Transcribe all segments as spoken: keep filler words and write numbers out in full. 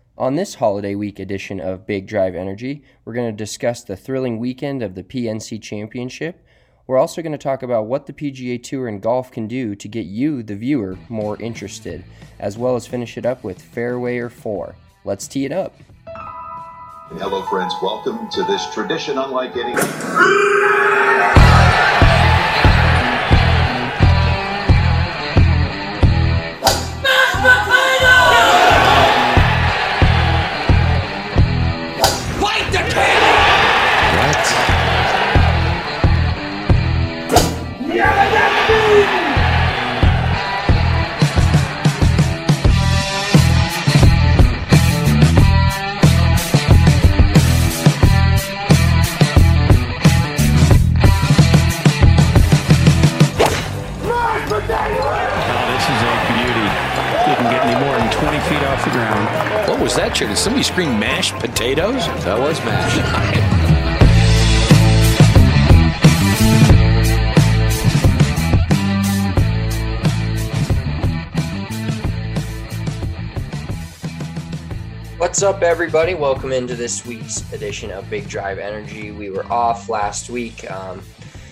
On this holiday week edition of Big Drive Energy, we're going to discuss the thrilling weekend of the P N C Championship. We're also going to talk about what the P G A Tour and golf can do to get you, the viewer, more interested, as well as finish it up with Fairway or Four. Let's tee it up. Hello, friends. Welcome to this tradition unlike any. What was that, chicken? Somebody scream mashed potatoes? That was mashed. What's up, everybody? Welcome into this week's edition of Big Drive Energy. We were off last week. Um,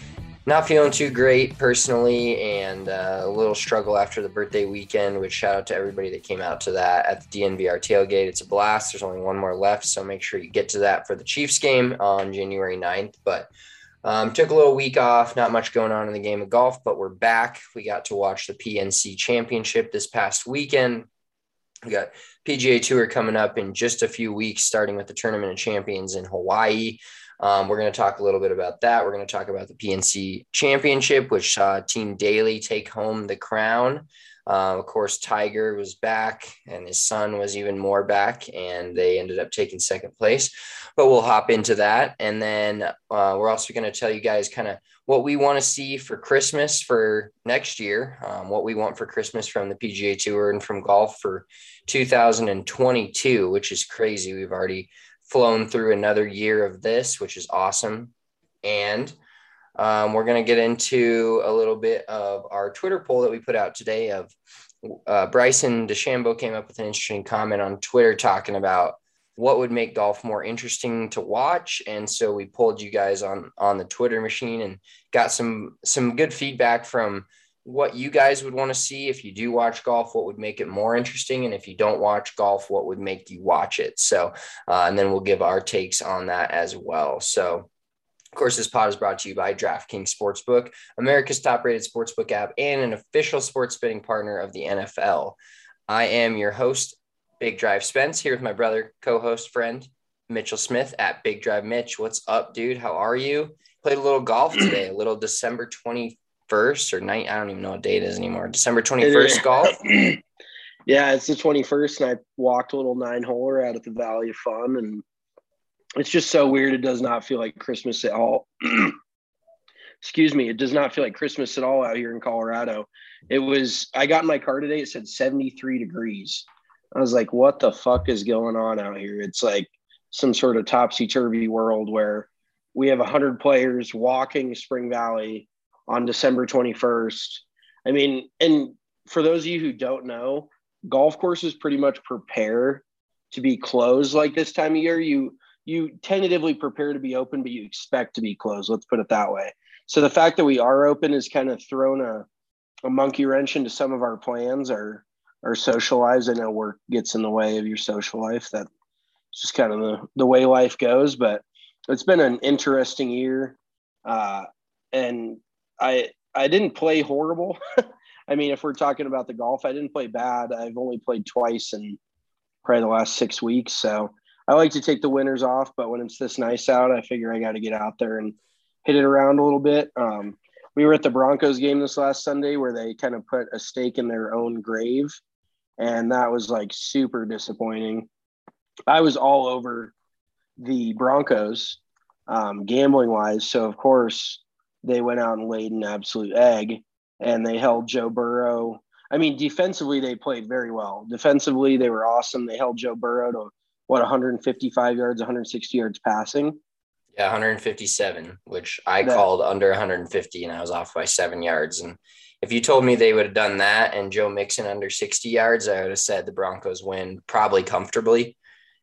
Not feeling too great personally, and uh, a little struggle after the birthday weekend, which shout out to everybody that came out to that at the D N V R tailgate. It's a blast. There's only one more left, so make sure you get to that for the Chiefs game on January ninth. But um, took a little week off, not much going on in the game of golf, but we're back. We got to watch the P N C Championship this past weekend. We got P G A Tour coming up in just a few weeks, starting with the Tournament of Champions in Hawaii. Um, we're going to talk a little bit about that. We're going to talk about the P N C Championship, which saw Team Daly take home the crown. Uh, of course, Tiger was back, and his son was even more back, and they ended up taking second place. But we'll hop into that. And then uh, we're also going to tell you guys kind of what we want to see for Christmas for next year, um, what we want for Christmas from the P G A Tour and from golf for two thousand twenty-two, which is crazy. We've already flown through another year of this, which is awesome. And um, we're going to get into a little bit of our Twitter poll that we put out today of uh, Bryson DeChambeau came up with an interesting comment on Twitter talking about what would make golf more interesting to watch. And so we polled you guys on, on the Twitter machine and got some, some good feedback from what you guys would want to see. If you do watch golf, what would make it more interesting? And if you don't watch golf, what would make you watch it? So, uh, and then we'll give our takes on that as well. So, of course, this pod is brought to you by DraftKings Sportsbook, America's top-rated sportsbook app and an official sports betting partner of the N F L. I am your host, Big Drive Spence, here with my brother, co-host, friend, Mitchell Smith at Big Drive Mitch. What's up, dude? How are you? Played a little golf today, a little December twenty-first or night. I don't even know what date it is anymore. December twenty-first golf. Yeah, it's the twenty-first, and I walked a little nine-holer out at the Valley of Fun, and it's just so weird. It does not feel like Christmas at all. Excuse me. It does not feel like Christmas at all out here in Colorado. It was – I got in my car today. It said seventy-three degrees. I was like, what the fuck is going on out here? It's like some sort of topsy-turvy world where we have one hundred players walking Spring Valley on December twenty-first. I mean, and for those of you who don't know, golf courses pretty much prepare to be closed like this time of year. You you tentatively prepare to be open, but you expect to be closed. Let's put it that way. So the fact that we are open has kind of thrown a, a monkey wrench into some of our plans, our, our social lives. I know work gets in the way of your social life. That's just kind of the, the way life goes. But it's been an interesting year. Uh, and I I didn't play horrible. I mean, if we're talking about the golf, I didn't play bad. I've only played twice in probably the last six weeks. So I like to take the winters off, but when it's this nice out, I figure I got to get out there and hit it around a little bit. Um, we were at the Broncos game this last Sunday where they kind of put a stake in their own grave, and that was like super disappointing. I was all over the Broncos um, gambling wise. So of course they went out and laid an absolute egg, and they held Joe Burrow. I mean, defensively, they played very well. Defensively, they were awesome. They held Joe Burrow to, what, one hundred fifty-five yards, one hundred sixty yards passing. Yeah, one hundred fifty-seven, which I That- called under one hundred fifty, and I was off by seven yards. And if you told me they would have done that and Joe Mixon under sixty yards, I would have said the Broncos win probably comfortably.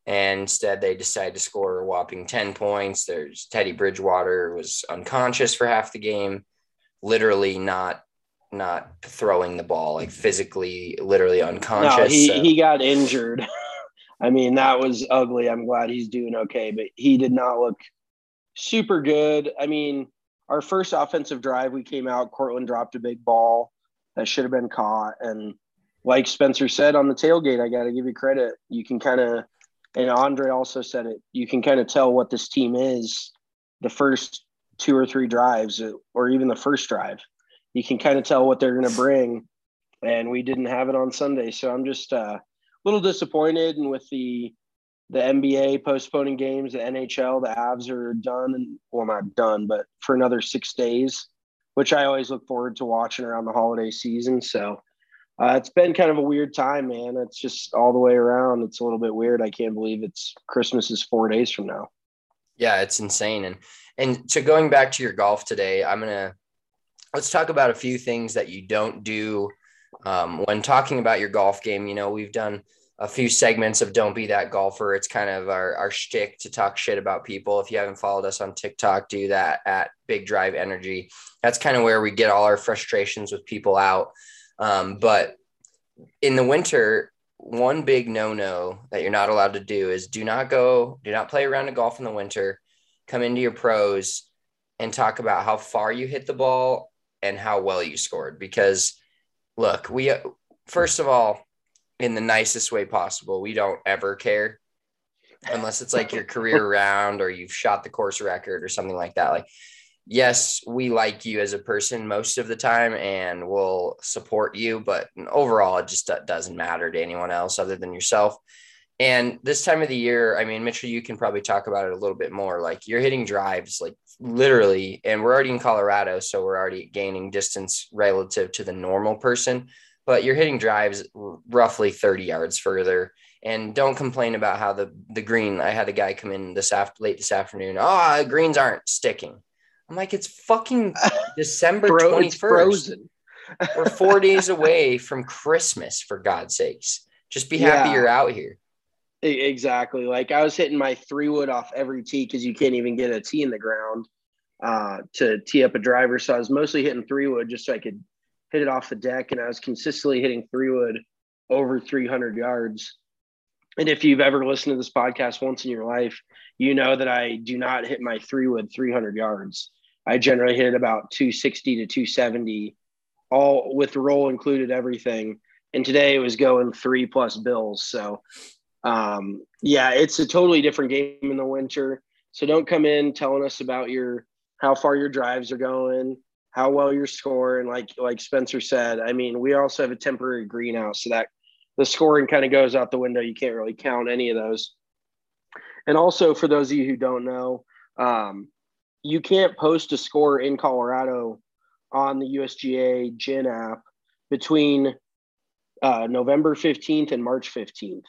And instead, they decided to score a whopping ten points. There's Teddy Bridgewater was unconscious for half the game, literally not not throwing the ball, like physically, literally unconscious. No, he, so. he got injured. I mean, that was ugly. I'm glad he's doing okay, but he did not look super good. I mean, our first offensive drive, we came out, Cortland dropped a big ball that should have been caught. And like Spencer said on the tailgate, I got to give you credit. You can kind of, and Andre also said it, you can kind of tell what this team is the first two or three drives, or even the first drive. You can kind of tell what they're going to bring. And we didn't have it on Sunday. So I'm just uh, a little disappointed. And with the the N B A postponing games, the N H L, the Avs are done. And well, not done, but for another six days, which I always look forward to watching around the holiday season. So uh, it's been kind of a weird time, man. It's just all the way around. It's a little bit weird. I can't believe it's Christmas is four days from now. Yeah, it's insane. And and so going back to your golf today, I'm going to let's talk about a few things that you don't do um, when talking about your golf game. You know, we've done a few segments of Don't Be That Golfer. It's kind of our, our shtick to talk shit about people. If you haven't followed us on TikTok, do that at Big Drive Energy. That's kind of where we get all our frustrations with people out. Um, but in the winter, one big no-no that you're not allowed to do is do not go, do not play a round of golf in the winter, come into your pros and talk about how far you hit the ball and how well you scored. Because look, we, first of all, in the nicest way possible, we don't ever care unless it's like your career round or you've shot the course record or something like that. Like, yes, we like you as a person most of the time and we'll support you, but overall, it just doesn't matter to anyone else other than yourself. And this time of the year, I mean, Mitchell, you can probably talk about it a little bit more. Like, you're hitting drives, like literally, and we're already in Colorado, so we're already gaining distance relative to the normal person, but you're hitting drives roughly thirty yards further. And don't complain about how the, the green, I had a guy come in this after late this afternoon. Oh, greens aren't sticking. I'm like, it's fucking December Bro, twenty-first. it's frozen. We're four days away from Christmas, for God's sakes. Just be happy Yeah. you're out here. Exactly. Like, I was hitting my three wood off every tee because you can't even get a tee in the ground uh, to tee up a driver. So I was mostly hitting three wood just so I could hit it off the deck. And I was consistently hitting three wood over three hundred yards. And if you've ever listened to this podcast once in your life, you know that I do not hit my three wood three hundred yards. I generally hit about two sixty to two seventy, all with roll included, everything. And today it was going three plus bills. So um, yeah, it's a totally different game in the winter. So don't come in telling us about your, how far your drives are going, how well you're scoring. Like, like Spencer said, I mean, we also have a temporary greenhouse, so that the scoring kind of goes out the window. You can't really count any of those. And also, for those of you who don't know, um, you can't post a score in Colorado on the U S G A G I N app between uh, November fifteenth and March fifteenth.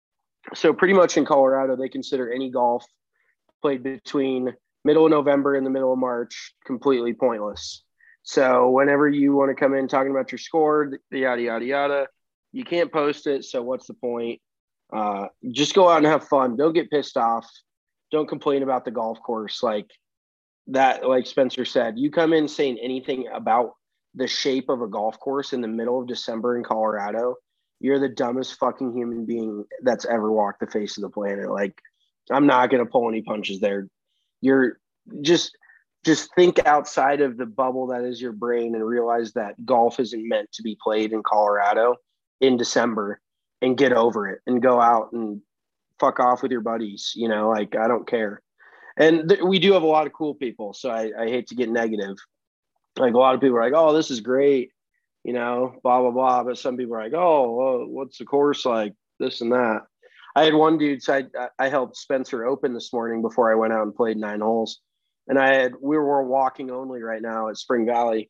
So pretty much in Colorado, they consider any golf played between middle of November and the middle of March completely pointless. So whenever you want to come in talking about your score, yada, yada, yada, you can't post it. So what's the point? Uh, just go out and have fun. Don't get pissed off. Don't complain about the golf course. Like that, like Spencer said, you come in saying anything about the shape of a golf course in the middle of December in Colorado, you're the dumbest fucking human being that's ever walked the face of the planet. Like, I'm not going to pull any punches there. You're just, just think outside of the bubble that is your brain and realize that golf isn't meant to be played in Colorado in December, and get over it and go out and fuck off with your buddies. You know, like, I don't care. And th- we do have a lot of cool people. So I, I hate to get negative. Like, a lot of people are like, oh, this is great, you know, blah, blah, blah. But some people are like, oh, well, what's the course like? This and that. I had one dude, so I, I helped Spencer open this morning before I went out and played nine holes. And I had, we were walking only right now at Spring Valley.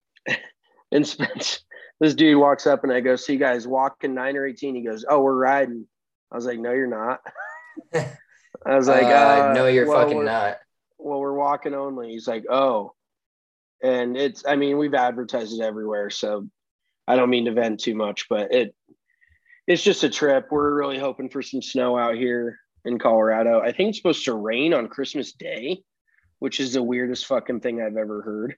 And Spencer, this dude walks up and I go, so you guys walking nine or eighteen? He goes, oh, we're riding. I was like, no, you're not. I was like, uh, uh, no, you're well, fucking not. Well, we're walking only. He's like, oh. And it's, I mean, we've advertised it everywhere, so I don't mean to vent too much, but it, it's just a trip. We're really hoping for some snow out here. in Colorado. I think it's supposed to rain on Christmas Day, which is the weirdest fucking thing I've ever heard.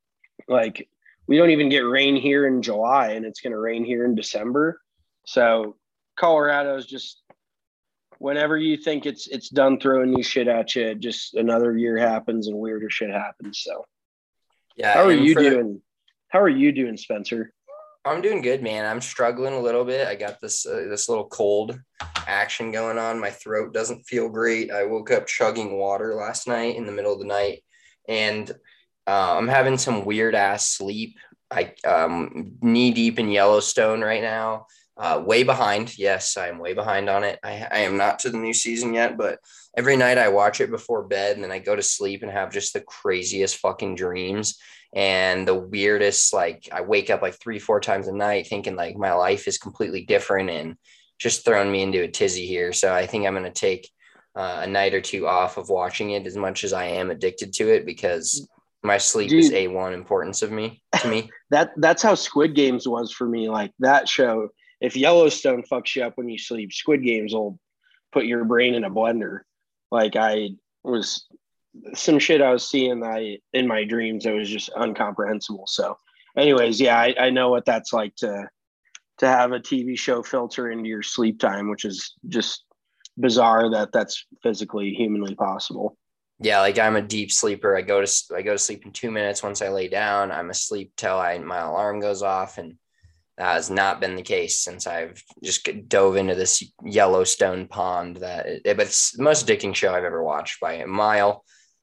Like, we don't even get rain here in July, and it's going to rain here in December. So Colorado is just, whenever you think it's it's done throwing new shit at you, just another year happens and weirder shit happens. So yeah, how are you for, doing? How are you doing, Spencer? I'm doing good, man. I'm struggling a little bit. I got this uh, this little cold action going on. My throat doesn't feel great. I woke up chugging water last night in the middle of the night, and uh, I'm having some weird ass sleep. I um knee deep in Yellowstone right now. Uh, way behind. Yes, I am way behind on it. I, I am not to the new season yet, but every night I watch it before bed, and then I go to sleep and have just the craziest fucking dreams and the weirdest, like I wake up like three, four times a night thinking like my life is completely different and just throwing me into a tizzy here. So I think I'm going to take uh, a night or two off of watching it as much as I am addicted to it, because my sleep Dude, is A one importance of me to me. that that's how Squid Games was for me. Like that show, if Yellowstone fucks you up when you sleep, Squid Games will put your brain in a blender. Like I was some shit I was seeing I in my dreams that was just incomprehensible. So anyways, yeah, I, I know what that's like to to have a T V show filter into your sleep time, which is just bizarre that that's physically humanly possible. Yeah, like I'm a deep sleeper. I go to I go to sleep in two minutes. Once I lay down, I'm asleep till I my alarm goes off, and that has not been the case since I've just dove into this Yellowstone pond. That it, but it's the most addicting show I've ever watched by a mile.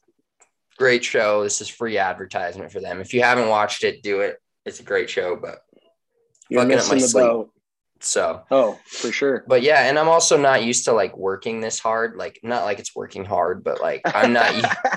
Great show. This is free advertisement for them. If you haven't watched it, do it. It's a great show, but You're fucking up my missing the sleep. boat. So, oh, for sure. But yeah, and I'm also not used to like working this hard. Like, not like it's working hard, but like I'm not,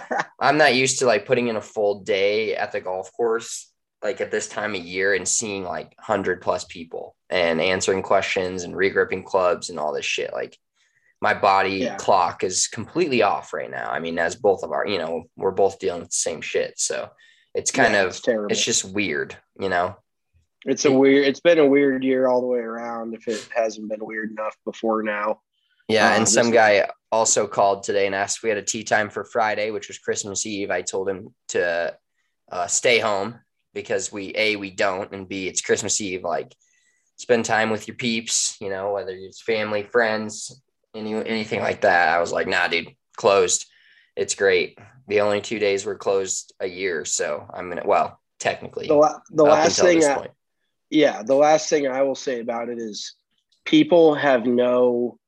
I'm not used to like putting in a full day at the golf course, like at this time of year, and seeing like hundred plus people and answering questions and regripping clubs and all this shit. Like, my body Yeah. clock is completely off right now. I mean, as both of our, you know, we're both dealing with the same shit. So it's kind Yeah, of, it's terrible. It's just weird, you know? It's a weird, it's been a weird year all the way around, if it hasn't been weird enough before now. Yeah. Uh, And some this- guy also called today and asked if we had a tea time for Friday, which was Christmas Eve. I told him to uh, stay home because we, A, we don't, and B, it's Christmas Eve. Like, spend time with your peeps, you know, whether it's family, friends, any anything like that. I was like, nah, dude, closed. It's great. The only two days we're closed a year. So I'm going to, well, technically. The, la- the up last until thing, this I, point. yeah, the last thing I will say about it is people have no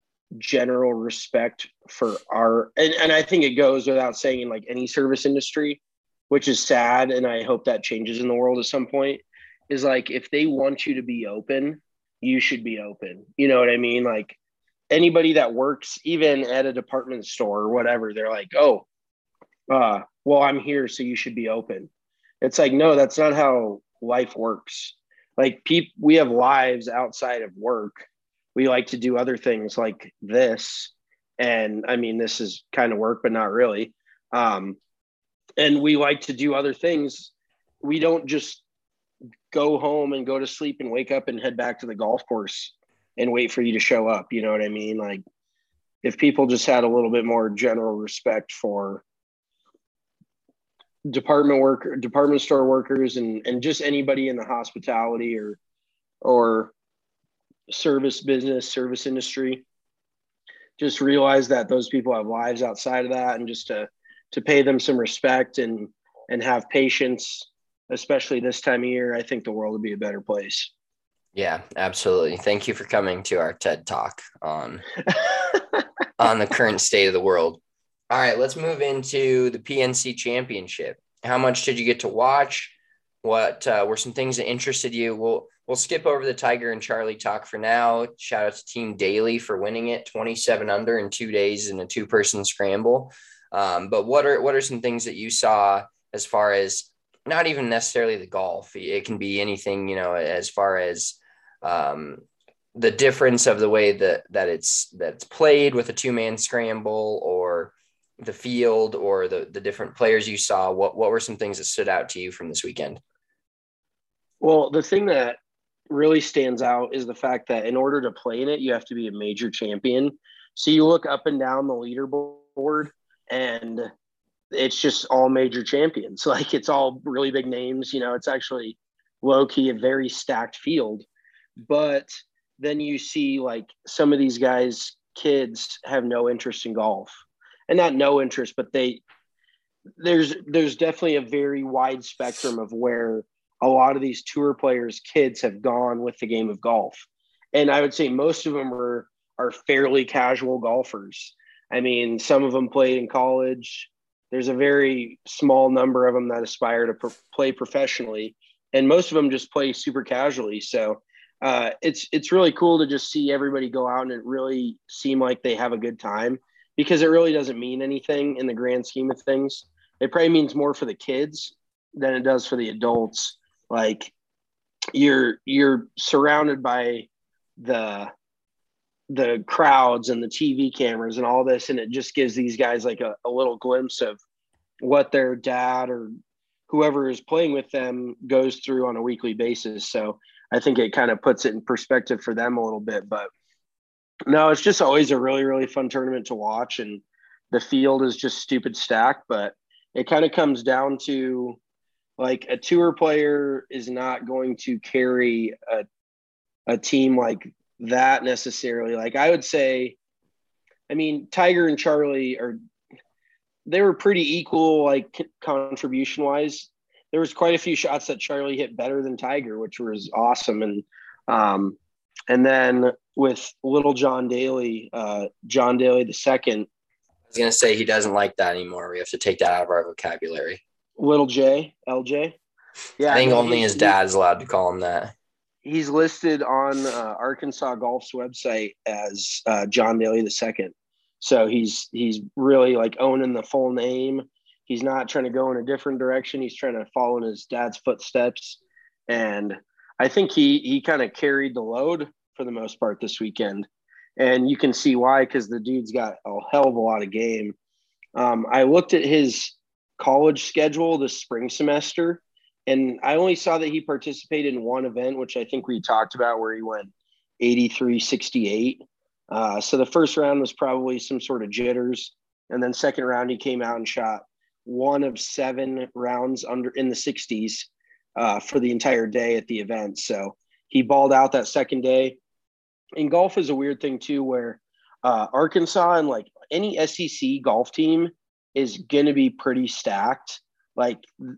general respect for our, and, and I think it goes without saying in like any service industry, which is sad. And I hope that changes in the world at some point, is like, if they want you to be open, you should be open. You know what I mean? Like, anybody that works even at a department store or whatever, they're like, oh, uh, well, I'm here, so you should be open. It's like, no, that's not how life works. Like, people, we have lives outside of work. We like to do other things like this. And I mean, this is kind of work, but not really. Um, and we like to do other things. We don't just go home and go to sleep and wake up and head back to the golf course and wait for you to show up. You know what I mean? Like, if people just had a little bit more general respect for department worker, department store workers, and, and just anybody in the hospitality or, or service business, service industry, just realize that those people have lives outside of that, and just to, to pay them some respect and, and have patience, especially this time of year, I think the world would be a better place. Yeah, absolutely. Thank you for coming to our TED Talk on on the current state of the world. All right, let's move into the P N C Championship. How much did you get to watch? What uh, were some things that interested you? We'll we'll skip over the Tiger and Charlie talk for now. Shout out to Team Daly for winning it, twenty-seven under in two days in a two-person scramble. Um, but what are what are some things that you saw as far as not even necessarily the golf? It can be anything, you know, as far as um, the difference of the way that, that it's, that's played with a two-man scramble, or the field, or the, the different players you saw. What, what were some things that stood out to you from this weekend? Well, the thing that really stands out is the fact that in order to play in it, you have to be a major champion. So you look up and down the leaderboard, and it's just all major champions. Like, it's all really big names. You know, it's actually low key a very stacked field. But then you see like some of these guys, kids have no interest in golf, and not no interest, but they there's there's definitely a very wide spectrum of where a lot of these tour players' kids have gone with the game of golf. And I would say most of them are are fairly casual golfers. I mean, some of them played in college. There's a very small number of them that aspire to pro- play professionally, and most of them just play super casually. So uh, it's it's really cool to just see everybody go out and it really seem like they have a good time, because it really doesn't mean anything in the grand scheme of things. It probably means more for the kids than it does for the adults. Like, you're you're surrounded by the the crowds and the T V cameras and all this, and it just gives these guys like a, a little glimpse of what their dad or whoever is playing with them goes through on a weekly basis. So I think it kind of puts it in perspective for them a little bit. But no, it's just always a really, really fun tournament to watch, and the field is just stupid stacked. But it kind of comes down to, like, a tour player is not going to carry a a team like that necessarily. Like, I would say, I mean, Tiger and Charlie are, they were pretty equal, like, contribution wise. There was quite a few shots that Charlie hit better than Tiger, which was awesome. And, um, and then with little John Daly, uh, John Daly the second. I was going to say he doesn't like that anymore. We have to take that out of our vocabulary. Little J, L J. Yeah, I think only his dad's allowed to call him that. He's listed on uh, Arkansas Golf's website as uh, John Daly the second. So he's he's really like owning the full name. He's not trying to go in a different direction. He's trying to follow in his dad's footsteps. And I think he he kind of carried the load for the most part this weekend. And you can see why, because the dude's got a hell of a lot of game. Um, I looked at his college schedule this spring semester, and I only saw that he participated in one event, which I think we talked about, where he went eighty-three sixty-eight. Uh, so the first round was probably some sort of jitters. And then second round, he came out and shot one of seven rounds under in the sixties uh, for the entire day at the event. So he balled out that second day. And golf is a weird thing too, where uh, Arkansas and like any S E C golf team is going to be pretty stacked. Like,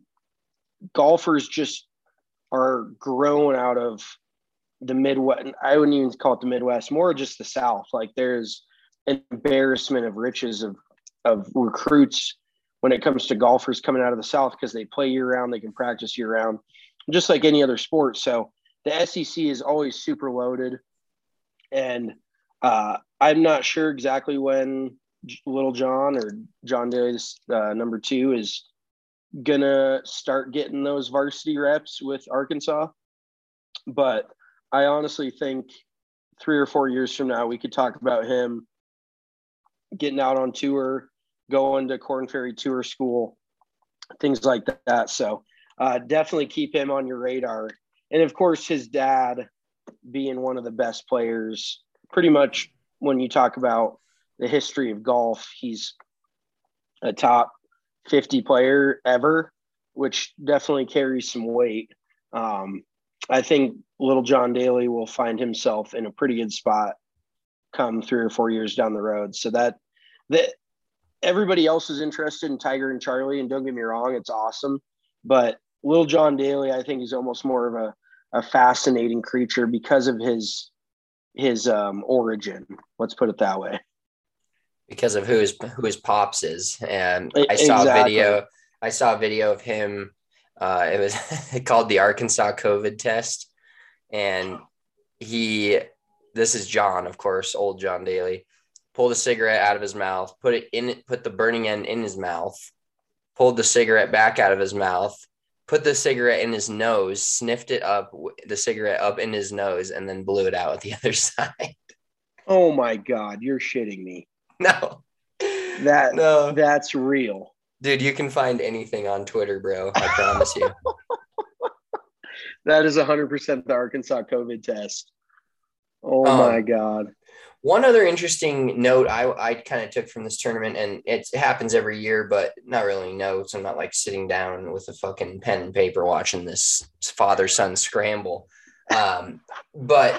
golfers just are grown out of the Midwest. I wouldn't even call it the Midwest, more just the South. Like, there's an embarrassment of riches of, of recruits when it comes to golfers coming out of the South, because they play year round, they can practice year round, just like any other sport. So the S E C is always super loaded. And uh, I'm not sure exactly when Little John or John Daly's uh, number two is gonna start getting those varsity reps with Arkansas, but I honestly think three or four years from now we could talk about him getting out on tour, going to Korn Ferry Tour School, things like that. So uh, definitely keep him on your radar. And of course, his dad being one of the best players, pretty much when you talk about the history of golf, he's a top fifty player ever, which definitely carries some weight. Um, I think little John Daly will find himself in a pretty good spot come three or four years down the road. So that, that everybody else is interested in Tiger and Charlie, and don't get me wrong, it's awesome. But little John Daly, I think, is almost more of a, a fascinating creature because of his, his um, origin. Let's put it that way. Because of who his who his pops is. And I saw exactly. a video. I saw a video of him. Uh, it was called the Arkansas COVID test, and he. This is John, of course, old John Daly. Pulled a cigarette out of his mouth, put it in, put the burning end in his mouth, pulled the cigarette back out of his mouth, put the cigarette in his nose, sniffed it up, the cigarette up in his nose, and then blew it out at the other side. Oh my God, you're shitting me. No, that no, that's real, dude. You can find anything on Twitter, bro. I promise you. That is one hundred percent the Arkansas COVID test. Oh um, my God. One other interesting note I, I kind of took from this tournament, and it happens every year, but not really notes. I'm not like sitting down with a fucking pen and paper watching this father-son scramble. Um, but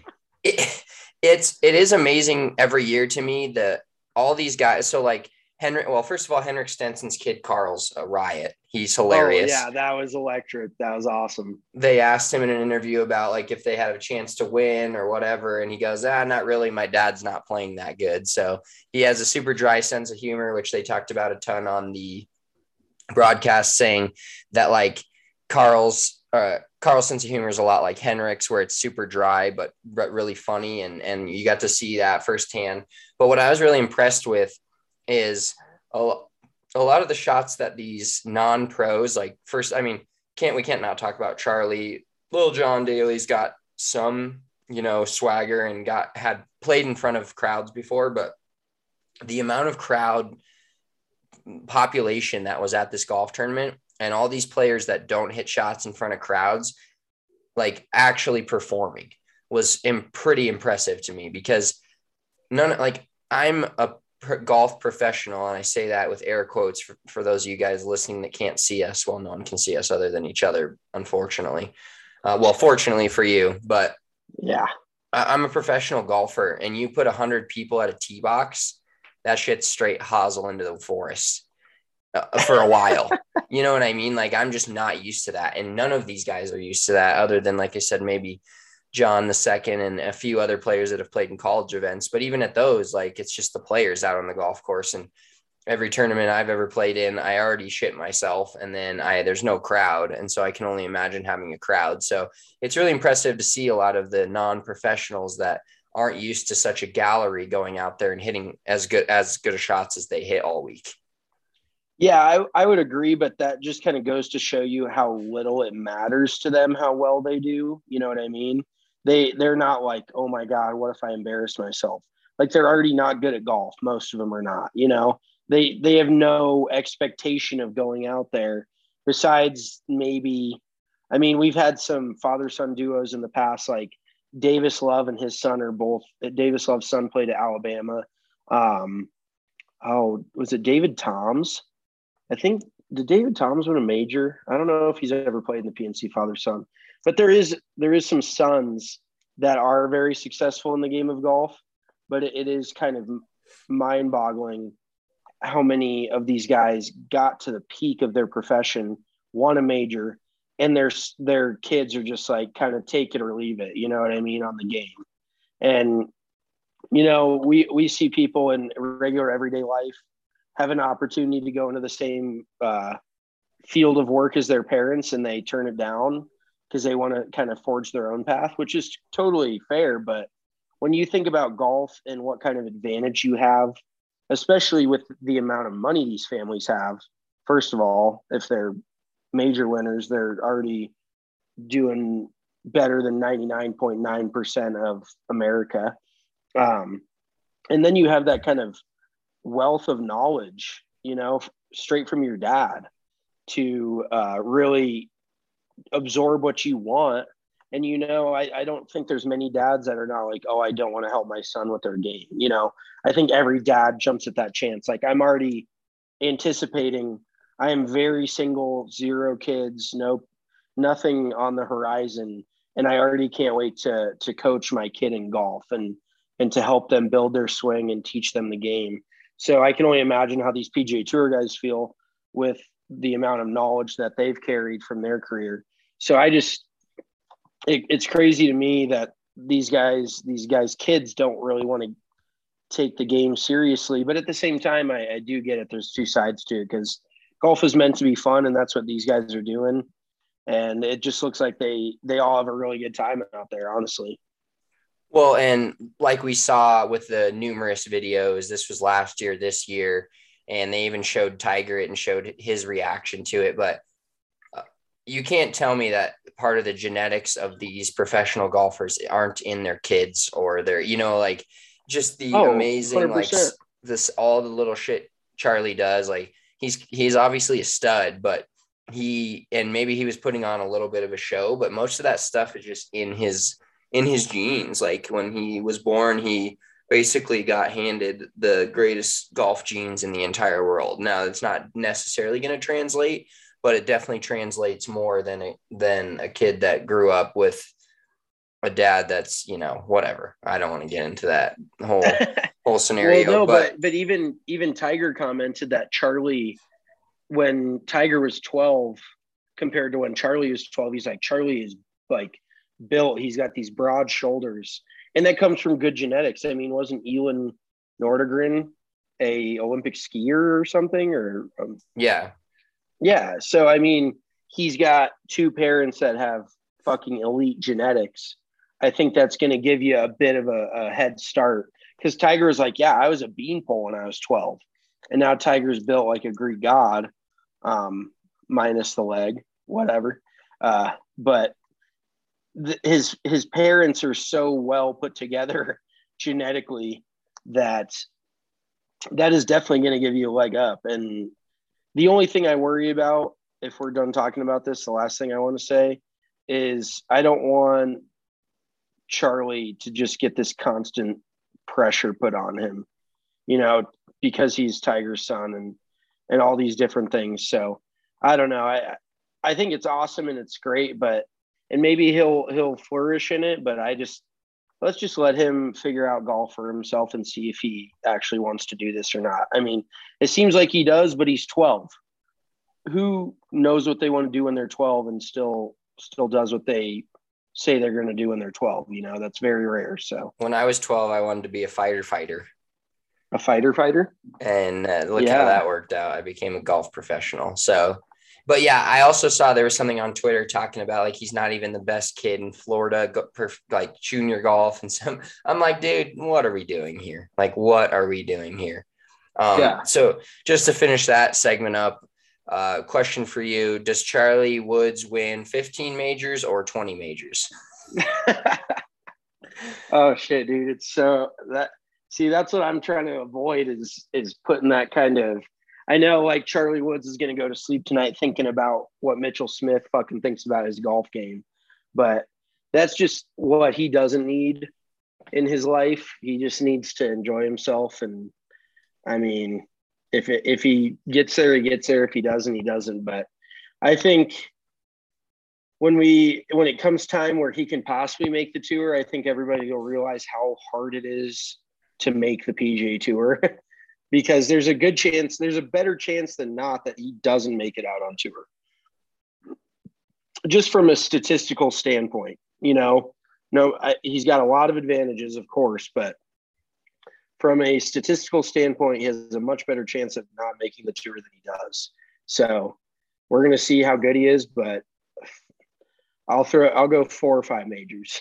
it, it's it is amazing every year to me that all these guys. So like Henrik, well, first of all, Henrik Stenson's kid Carl's a riot. He's hilarious. Oh, yeah, that was electric. That was awesome. They asked him in an interview about like if they had a chance to win or whatever, and he goes, ah, not really. My dad's not playing that good. So he has a super dry sense of humor, which they talked about a ton on the broadcast, saying that like Carl's uh, Carl's sense of humor is a lot like Henrik's, where it's super dry but, but really funny, and and you got to see that firsthand. But what I was really impressed with is a, a lot of the shots that these non-pros, like first, I mean, can't, we can't not talk about Charlie. Little John Daly's got some, you know, swagger and got, had played in front of crowds before, but the amount of crowd population that was at this golf tournament and all these players that don't hit shots in front of crowds, like actually performing, was im- pretty impressive to me, because none, like I'm a golf professional, and I say that with air quotes for, for those of you guys listening that can't see us. Well, no one can see us other than each other, unfortunately. Uh, well, fortunately for you, but yeah, I, I'm a professional golfer, and you put a hundred people at a tee box, that shit's straight hosel into the forest uh, for a while. You know what I mean? Like, I'm just not used to that, and none of these guys are used to that, other than, like I said, maybe John the second and a few other players that have played in college events. But even at those, like, it's just the players out on the golf course. And every tournament I've ever played in, I already shit myself, and then I, there's no crowd. And so I can only imagine having a crowd. So it's really impressive to see a lot of the non-professionals that aren't used to such a gallery going out there and hitting as good, as good a shots as they hit all week. Yeah, I, I would agree, but that just kind of goes to show you how little it matters to them, how well they do. You know what I mean? They, they're not like, oh my God, what if I embarrass myself? Like, they're already not good at golf. Most of them are not, you know, they, they have no expectation of going out there besides maybe, I mean, we've had some father-son duos in the past, like Davis Love and his son are both, Davis Love's son played at Alabama. Um, oh, was it David Toms? I think, did David Toms win a major? I don't know if he's ever played in the P N C father-son. But there is there is some sons that are very successful in the game of golf, but it, it is kind of mind-boggling how many of these guys got to the peak of their profession, won a major, and their their kids are just like kind of take it or leave it, you know what I mean, on the game. And you know, we we see people in regular everyday life have an opportunity to go into the same uh, field of work as their parents, and they turn it down because they want to kind of forge their own path, which is totally fair. But when you think about golf and what kind of advantage you have, especially with the amount of money these families have, first of all, if they're major winners, they're already doing better than ninety-nine point nine percent of America. Um, and then you have that kind of wealth of knowledge, you know, straight from your dad to uh, really absorb what you want. And, you know, I, I don't think there's many dads that are not like, oh, I don't want to help my son with their game. You know, I think every dad jumps at that chance. Like, I'm already anticipating, I am very single, zero kids, no, nothing on the horizon. And I already can't wait to, to coach my kid in golf and, and to help them build their swing and teach them the game. So I can only imagine how these P G A Tour guys feel with the amount of knowledge that they've carried from their career. So I just, it, it's crazy to me that these guys, these guys' kids don't really want to take the game seriously. But at the same time, I, I do get it. There's two sides to it, because golf is meant to be fun, and that's what these guys are doing. And it just looks like they, they all have a really good time out there, honestly. Well, and like we saw with the numerous videos, this was last year, this year, and they even showed Tiger it and showed his reaction to it. But uh, you can't tell me that part of the genetics of these professional golfers aren't in their kids or their, you know, like just the oh, amazing, one hundred percent. like this, all the little shit Charlie does. Like he's, he's obviously a stud, but he, and maybe he was putting on a little bit of a show, but most of that stuff is just in his, in his genes. Like when he was born, he basically got handed the greatest golf genes in the entire world. Now it's not necessarily going to translate, but it definitely translates more than a, than a kid that grew up with a dad that's, you know, whatever. I don't want to get into that whole whole scenario. Well, no, but, but but even even Tiger commented that Charlie, when Tiger was twelve compared to when Charlie was twelve, he's like, Charlie is like built. He's got these broad shoulders, and that comes from good genetics. I mean, wasn't Elin Nordegren a Olympic skier or something? Or um, yeah, yeah. So I mean, he's got two parents that have fucking elite genetics. I think that's going to give you a bit of a, a head start, because Tiger is like, yeah, I was a beanpole when I was twelve, and now Tiger's built like a Greek god, um, minus the leg, whatever. Uh, but th- his his parents are so well put together genetically that that is definitely going to give you a leg up. And the only thing I worry about, if we're done talking about this, the last thing I want to say is I don't want Charlie to just get this constant pressure put on him, you know, because he's Tiger's son and and all these different things. So I don't know. I I think it's awesome and it's great, but and maybe he'll he'll flourish in it. But I just let's just let him figure out golf for himself and see if he actually wants to do this or not. I mean, it seems like he does, but he's twelve. Who knows what they want to do when they're twelve and still still does what they say they're going to do when they're twelve? You know, that's very rare. So when I was twelve, I wanted to be a fighter fighter. A fighter fighter? And uh, look Yeah. how that worked out. I became a golf professional. So, but yeah, I also saw there was something on Twitter talking about like he's not even the best kid in Florida, go, perf, like junior golf. And so I'm like, dude, what are we doing here? Like, what are we doing here? Um, Yeah. So just to finish that segment up, uh, question for you: does Charlie Woods win fifteen majors or twenty majors? Oh shit, dude! It's so that. See, that's what I'm trying to avoid is is putting that kind of. I know, like Charlie Woods is going to go to sleep tonight thinking about what Mitchell Smith fucking thinks about his golf game, but that's just what he doesn't need in his life. He just needs to enjoy himself, and I mean, if it, if he gets there, he gets there. If he doesn't, he doesn't. But I think when we when it comes time where he can possibly make the tour, I think everybody will realize how hard it is to make the P G A Tour. Because there's a good chance, there's a better chance than not that he doesn't make it out on tour. Just from a statistical standpoint, you know, no, I, he's got a lot of advantages, of course, but from a statistical standpoint, he has a much better chance of not making the tour than he does. So we're going to see how good he is, but I'll throw, I'll go four or five majors.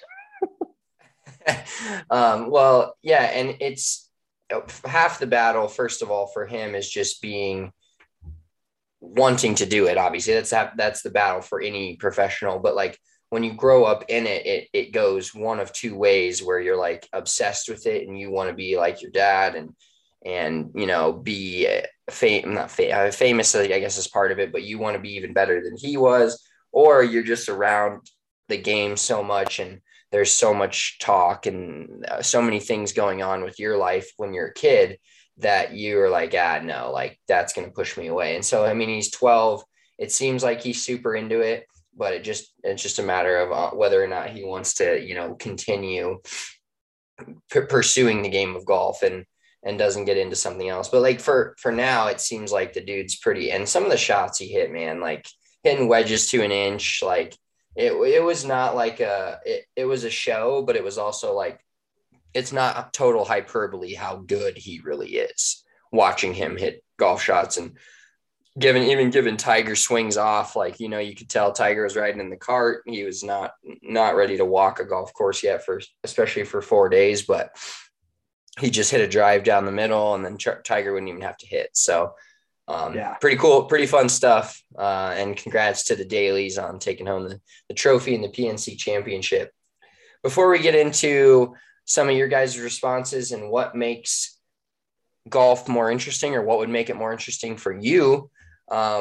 um, well, yeah. And it's, half the battle, first of all, for him is just being wanting to do it. Obviously that's that's the battle for any professional, but like when you grow up in it, it, it goes one of two ways where you're like obsessed with it and you want to be like your dad and, and, you know, be fam- not fa- famous, I guess is part of it, but you want to be even better than he was, or you're just around the game so much and there's so much talk and uh, so many things going on with your life when you're a kid that you're like, ah, no, like that's going to push me away. And so, I mean, he's twelve. It seems like he's super into it, but it just, it's just a matter of uh, whether or not he wants to, you know, continue p- pursuing the game of golf and, and doesn't get into something else. But like for, for now, it seems like the dude's pretty, and some of the shots he hit, man, like hitting wedges to an inch, like, It it was not like a it, it was a show, but it was also like it's not total hyperbole how good he really is. Watching him hit golf shots and given even given Tiger swings off, like you know you could tell Tiger was riding in the cart. He was not not ready to walk a golf course yet, for especially for four days. But he just hit a drive down the middle, and then Ch- Tiger wouldn't even have to hit. So. Um, Yeah. Pretty cool, pretty fun stuff. Uh, and congrats to the Dailies on taking home the, the trophy and the P N C championship. Before we get into some of your guys' responses and what makes golf more interesting or what would make it more interesting for you, um,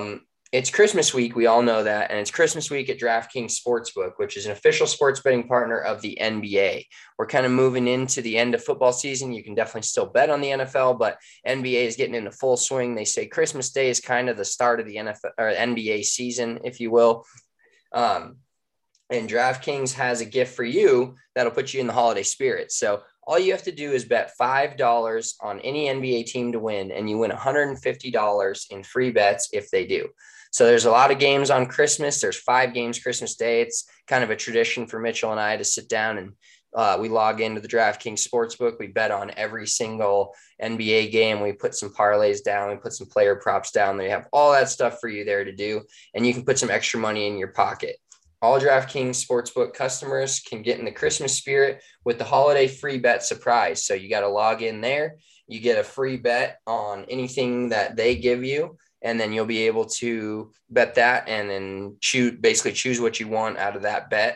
it's Christmas week. We all know that. And it's Christmas week at DraftKings Sportsbook, which is an official sports betting partner of the N B A. We're kind of moving into the end of football season. You can definitely still bet on the N F L, but N B A is getting into full swing. They say Christmas Day is kind of the start of the N F L or N B A season, if you will. Um, and DraftKings has a gift for you that'll put you in the holiday spirit. So all you have to do is bet five dollars on any N B A team to win, and you win one hundred fifty dollars in free bets if they do. So there's a lot of games on Christmas. There's five games Christmas Day. It's kind of a tradition for Mitchell and I to sit down and uh, we log into the DraftKings Sportsbook. We bet on every single N B A game. We put some parlays down. We put some player props down. They have all that stuff for you there to do, and you can put some extra money in your pocket. All DraftKings Sportsbook customers can get in the Christmas spirit with the holiday free bet surprise. So you got to log in there. You get a free bet on anything that they give you, and then you'll be able to bet that and then choose, basically choose what you want out of that bet.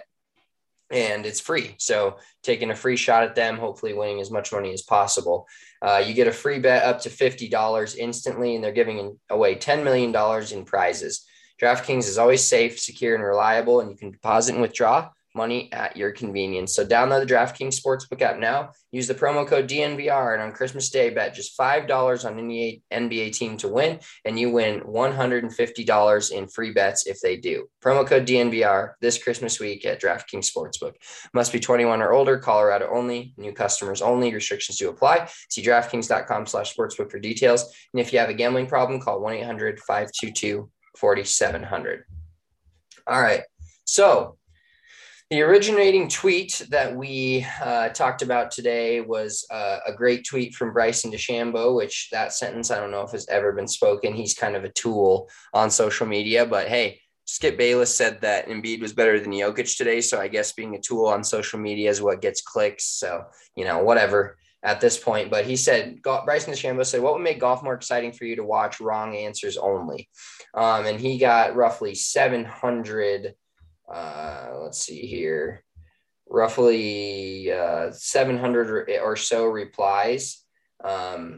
And it's free. So taking a free shot at them, hopefully winning as much money as possible. Uh, you get a free bet up to fifty dollars instantly, and they're giving away ten million dollars in prizes. DraftKings is always safe, secure, and reliable, and you can deposit and withdraw money at your convenience. So download the DraftKings Sportsbook app now. Use the promo code D N V R, and on Christmas Day, bet just five dollars on any N B A team to win, and you win one hundred fifty dollars in free bets if they do. Promo code D N V R this Christmas week at DraftKings Sportsbook. Must be twenty-one or older, Colorado only, new customers only, restrictions do apply. See DraftKings.com slash sportsbook for details. And if you have a gambling problem, call one eight hundred five two two four seven zero zero. All right. So the originating tweet that we uh, talked about today was uh, a great tweet from Bryson DeChambeau, which that sentence, I don't know if has ever been spoken. He's kind of a tool on social media, but hey, Skip Bayless said that Embiid was better than Jokic today. So I guess being a tool on social media is what gets clicks. So, you know, whatever at this point. But he said, Bryson DeChambeau said, what would make golf more exciting for you to watch? Wrong answers only. Um, and he got roughly seven hundred Uh, let's see here, roughly uh, seven hundred or so replies. Um,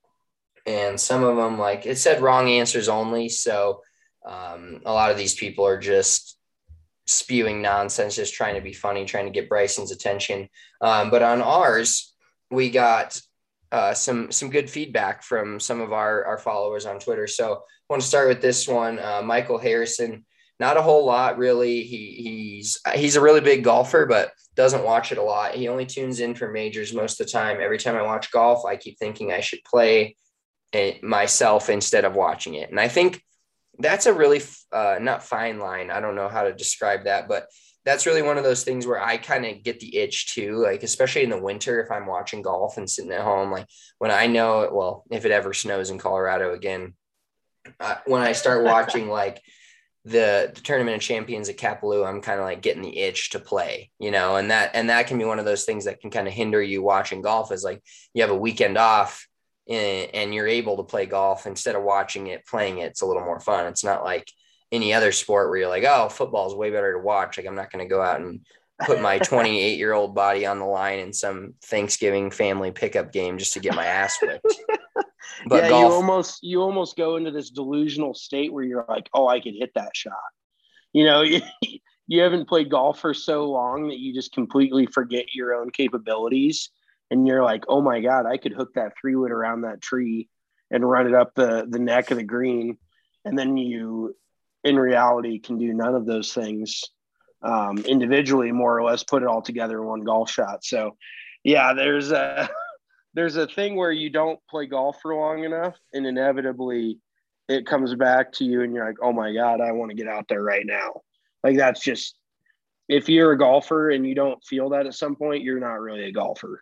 and some of them, like it said, wrong answers only. So um, a lot of these people are just spewing nonsense, just trying to be funny, trying to get Bryson's attention. Um, but on ours, we got uh, some some good feedback from some of our, our followers on Twitter. So I want to start with this one. Uh, Michael Harrison. Not a whole lot, really. He he's he's a really big golfer, but doesn't watch it a lot. He only tunes in for majors most of the time. Every time I watch golf, I keep thinking I should play it myself instead of watching it. And I think that's a really uh, not fine line. I don't know how to describe that, but that's really one of those things where I kind of get the itch too, like especially in the winter if I'm watching golf and sitting at home. Like when I know it, well, if it ever snows in Colorado again, uh, when I start watching like The, the Tournament of Champions at Kapalua, I'm kind of like getting the itch to play, you know, and that, and that can be one of those things that can kind of hinder you watching golf is like you have a weekend off and, and you're able to play golf instead of watching it, playing it. It's a little more fun. It's not like any other sport where you're like, oh, football is way better to watch. Like I'm not going to go out and put my twenty-eight year old body on the line in some Thanksgiving family pickup game just to get my ass whipped. But yeah, golf, you almost you almost go into this delusional state where you're like, oh, I could hit that shot. You know, you, you haven't played golf for so long that you just completely forget your own capabilities. And you're like, oh my God, I could hook that three wood around that tree and run it up the, the neck of the green. And then you, in reality, can do none of those things um, individually, more or less, put it all together in one golf shot. So, yeah, there's a there's a thing where you don't play golf for long enough, and inevitably it comes back to you, and you're like, oh my God, I want to get out there right now. Like that's just, if you're a golfer and you don't feel that at some point, you're not really a golfer.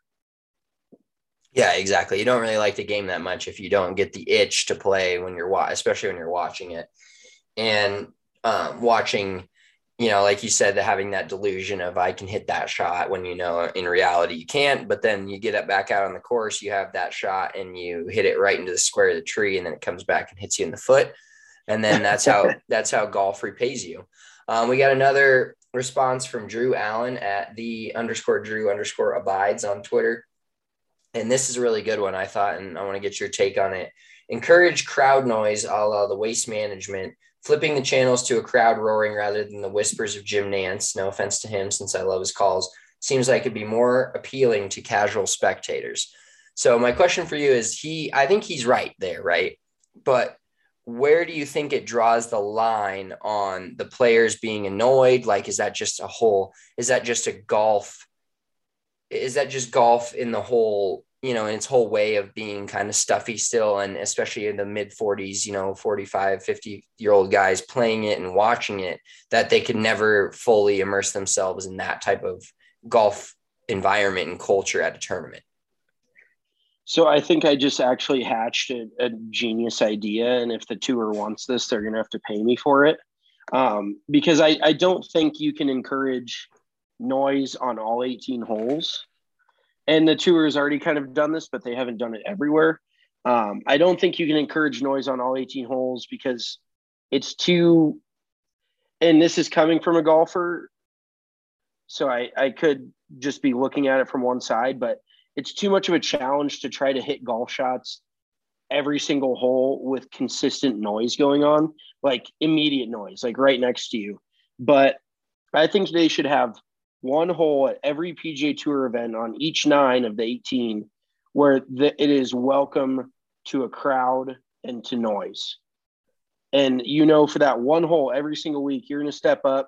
Yeah, exactly. You don't really like the game that much if you don't get the itch to play when you're wa- especially when you're watching it. And um, watching, you know, like you said, the, having that delusion of I can hit that shot when, you know, in reality you can't, but then you get it back out on the course, you have that shot and you hit it right into the square of the tree, and then it comes back and hits you in the foot. And then that's how, that's how golf repays you. Um, we got another response from Drew Allen at the underscore Drew underscore abides on Twitter. And this is a really good one, I thought, and I want to get your take on it. Encourage crowd noise, a la the Waste Management flipping the channels to a crowd roaring rather than the whispers of Jim Nance, no offense to him since I love his calls, seems like it'd be more appealing to casual spectators. So my question for you is he, I think he's right there, right? But where do you think it draws the line on the players being annoyed? Like, is that just a whole, is that just a golf? Is that just golf in the whole, you know, in its whole way of being kind of stuffy still? And especially in the mid forties, you know, forty-five, fifty year old guys playing it and watching it, that they could never fully immerse themselves in that type of golf environment and culture at a tournament. So I think I just actually hatched a, a genius idea. And if the tour wants this, they're going to have to pay me for it. Um, because I, I don't think you can encourage noise on all eighteen holes. And the tour has already kind of done this, but they haven't done it everywhere. Um, I don't think you can encourage noise on all eighteen holes because it's too, and this is coming from a golfer. So I, I could just be looking at it from one side, but it's too much of a challenge to try to hit golf shots every single hole with consistent noise going on, like immediate noise, like right next to you. But I think they should have one hole at every P G A Tour event on each nine of the eighteen where the, it is welcome to a crowd and to noise. And, you know, for that one hole every single week, you're going to step up.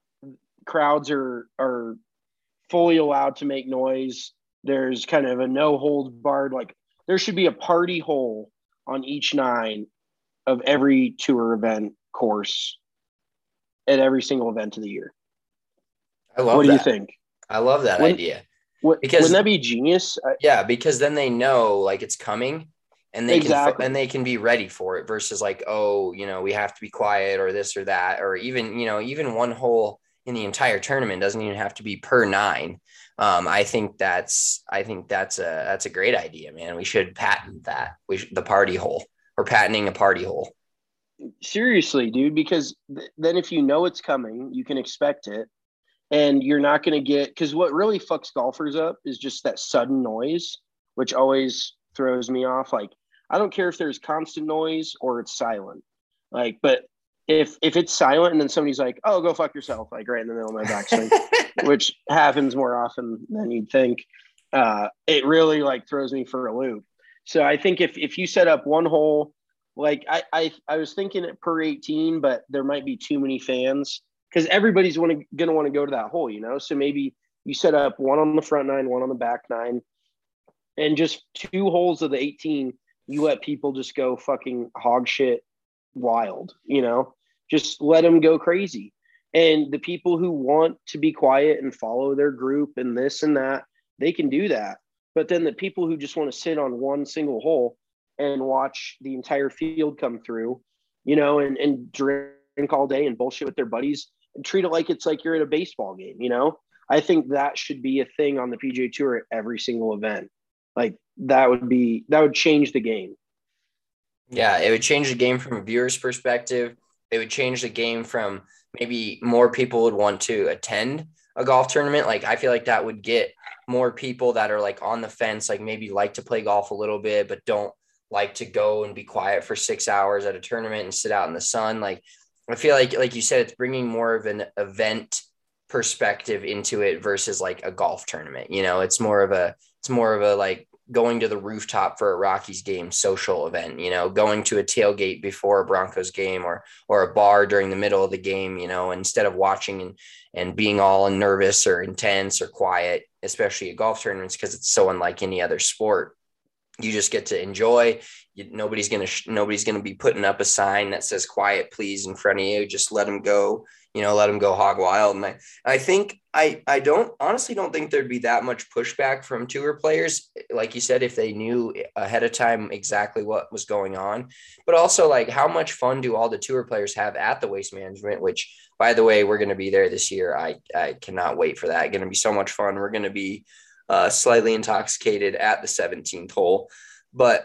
Crowds are are fully allowed to make noise. There's kind of a no holds barred, like there should be a party hole on each nine of every tour event course at every single event of the year. I love what that. do you think? I love that Wouldn't, idea. What, because wouldn't that be genius? Yeah, because then they know like it's coming and they exactly. can and they can be ready for it versus like, oh, you know, we have to be quiet or this or that, or even, you know, even one hole in the entire tournament doesn't even have to be per nine. Um, I think that's, I think that's a, that's a great idea, man. We should patent that. We should, the party hole or patenting a party hole. Seriously, dude, because th- then if you know it's coming, you can expect it and you're not going to get, cause what really fucks golfers up is just that sudden noise, which always throws me off. Like, I don't care if there's constant noise or it's silent. Like, but if if it's silent and then somebody's like, oh, go fuck yourself, like right in the middle of my backswing, which happens more often than you'd think, uh, it really like throws me for a loop. So I think if if you set up one hole, like I I, I was thinking it per eighteen, but there might be too many fans because everybody's want to gonna want to go to that hole, you know. So maybe you set up one on the front nine, one on the back nine, and just two holes of the eighteen, you let people just go fucking hog shit wild, you know, just let them go crazy. And the people who want to be quiet and follow their group and this and that, they can do that. But then the people who just want to sit on one single hole and watch the entire field come through, you know, and, and drink all day and bullshit with their buddies and treat it like it's like you're at a baseball game, you know. I think that should be a thing on the P G A Tour at every single event. Like that would be, that would change the game. Yeah, it would change the game from a viewer's perspective. It would change the game from maybe more people would want to attend a golf tournament. Like I feel like that would get more people that are like on the fence, like maybe like to play golf a little bit, but don't like to go and be quiet for six hours at a tournament and sit out in the sun. Like I feel like, like you said, it's bringing more of an event perspective into it versus like a golf tournament. You know, it's more of a, it's more of a like going to the rooftop for a Rockies game social event, you know, going to a tailgate before a Broncos game or, or a bar during the middle of the game, you know, instead of watching and, and being all nervous or intense or quiet, especially at golf tournaments, because it's so unlike any other sport. You just get to enjoy. You, nobody's going to, nobody's going to be putting up a sign that says quiet, please, in front of you. Just let them go, you know, let them go hog wild. And I, I think I, I don't honestly don't think there'd be that much pushback from tour players. Like you said, if they knew ahead of time exactly what was going on, but also like how much fun do all the tour players have at the Waste Management, which by the way, we're going to be there this year. I, I cannot wait for that. Going to be so much fun. We're going to be uh, slightly intoxicated at the seventeenth hole, but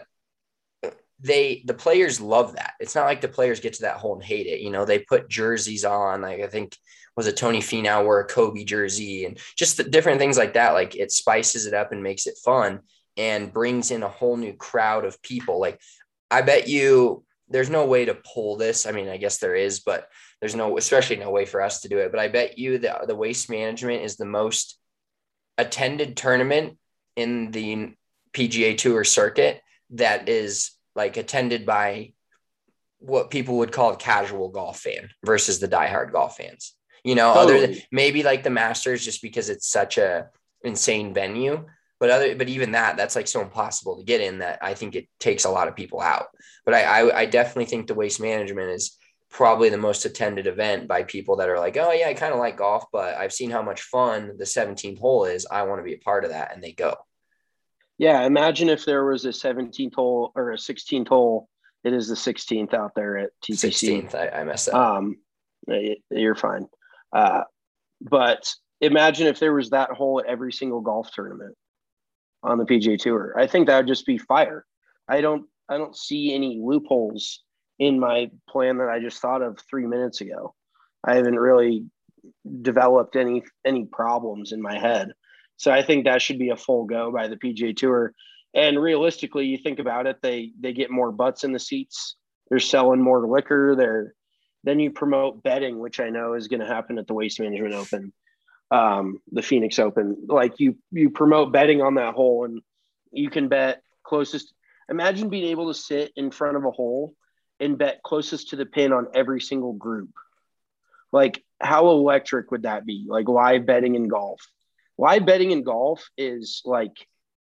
they, the players love that. It's not like the players get to that hole and hate it. You know, they put jerseys on, like I think was it Tony Finau wore a Kobe jersey and just the different things like that. Like it spices it up and makes it fun and brings in a whole new crowd of people. Like I bet you there's no way to pull this. I mean, I guess there is, but there's no, especially no way for us to do it. But I bet you that the Waste Management is the most attended tournament in the P G A Tour circuit that is like attended by what people would call a casual golf fan versus the diehard golf fans. You know, Totally. other than maybe like the Masters, just because it's such a insane venue. But other, but even that, that's like so impossible to get in that I think it takes a lot of people out. But I, I, I definitely think the Waste Management is probably the most attended event by people that are like, oh yeah, I kind of like golf, but I've seen how much fun the seventeenth hole is. I want to be a part of that, and they go. Yeah, imagine if there was a seventeenth hole or a sixteenth hole. It is the sixteenth out there at T P C. sixteenth, I, I messed up. Um, you're fine. Uh, but imagine if there was that hole at every single golf tournament on the P G A Tour. I think that would just be fire. I don't I don't see any loopholes in my plan that I just thought of three minutes ago. I haven't really developed any any problems in my head. So I think that should be a full go by the P G A Tour. And realistically, you think about it, they they get more butts in the seats. They're selling more liquor. They're then you promote betting, which I know is going to happen at the Waste Management Open. Um, the Phoenix Open, like you, you promote betting on that hole, and you can bet closest. Imagine being able to sit in front of a hole and bet closest to the pin on every single group. Like, how electric would that be? Like live betting in golf. Live betting in golf is like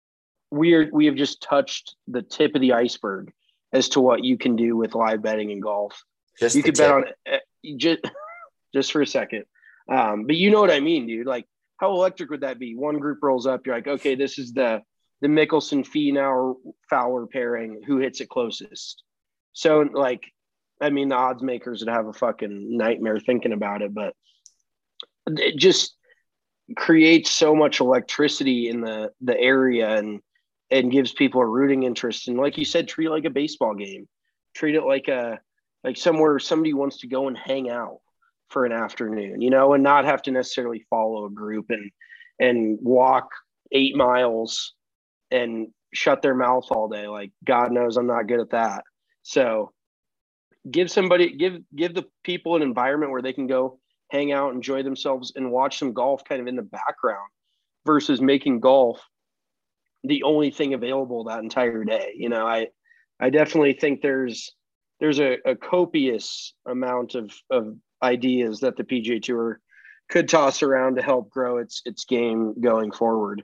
we're we have just touched the tip of the iceberg as to what you can do with live betting in golf. Just you could tip. bet on just just for a second. Um, but you know what I mean, dude? Like, how electric would that be? One group rolls up. You're like, okay, this is the the Mickelson Finau Fowler pairing. Who hits it closest? So, like, I mean, the odds makers would have a fucking nightmare thinking about it, but it just creates so much electricity in the the area and and gives people a rooting interest. And like you said, treat it like a baseball game. Treat it like a like somewhere somebody wants to go and hang out for an afternoon, you know, and not have to necessarily follow a group and and walk eight miles and shut their mouth all day. Like, God knows I'm not good at that. So give somebody, give give the people an environment where they can go hang out, enjoy themselves, and watch some golf kind of in the background versus making golf the only thing available that entire day. You know, I I definitely think there's there's a, a copious amount of of ideas that the P G A Tour could toss around to help grow its its game going forward.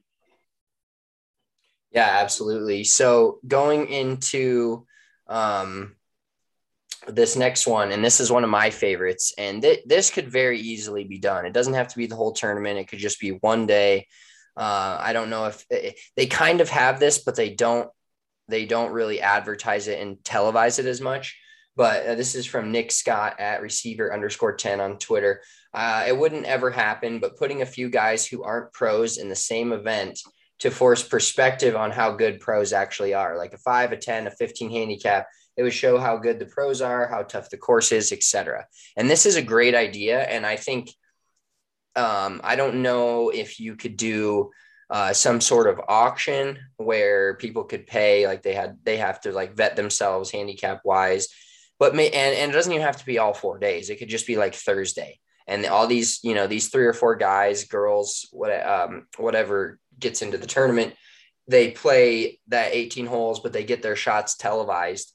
Yeah, absolutely. So going into um, this next one, and this is one of my favorites, and th- this could very easily be done. It doesn't have to be the whole tournament. It could just be one day. Uh, I don't know if they, they kind of have this, but they don't, they don't really advertise it and televise it as much. But uh, this is from Nick Scott at receiver underscore ten on Twitter. Uh, it wouldn't ever happen, but putting a few guys who aren't pros in the same event to force perspective on how good pros actually are, like a five, a ten, a fifteen handicap. It would show how good the pros are, how tough the course is, et cetera. And this is a great idea. And I think, um, I don't know if you could do uh, some sort of auction where people could pay, like they had, they have to like vet themselves handicap wise. But may, and, and it doesn't even have to be all four days. It could just be like Thursday. And all these, you know, these three or four guys, girls, what, um, whatever gets into the tournament, they play that eighteen holes, but they get their shots televised.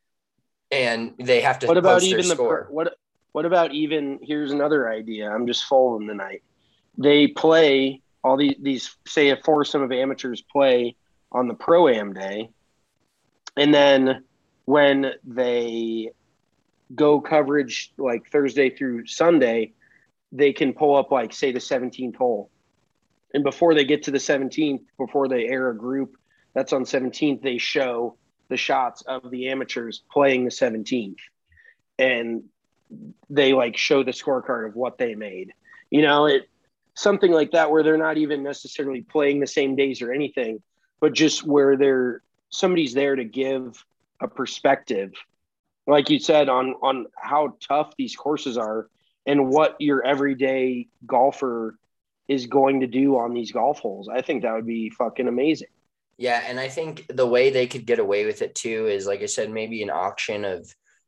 And they have to What about post even their the score. what? What about even? Here's another idea. I'm just following tonight. They play all these these say a foursome of amateurs play on the Pro-Am day, and then when they go coverage like Thursday through Sunday, they can pull up like say the seventeenth hole, and before they get to the seventeenth, before they air a group that's on seventeenth, they show the shots of the amateurs playing the seventeenth, and they like show the scorecard of what they made, you know, it something like that, where they're not even necessarily playing the same days or anything, but just where they're somebody's there to give a perspective, like you said, on, on how tough these courses are and what your everyday golfer is going to do on these golf holes. I think that would be fucking amazing. Yeah. And I think the way they could get away with it too is, like I said, maybe an auction of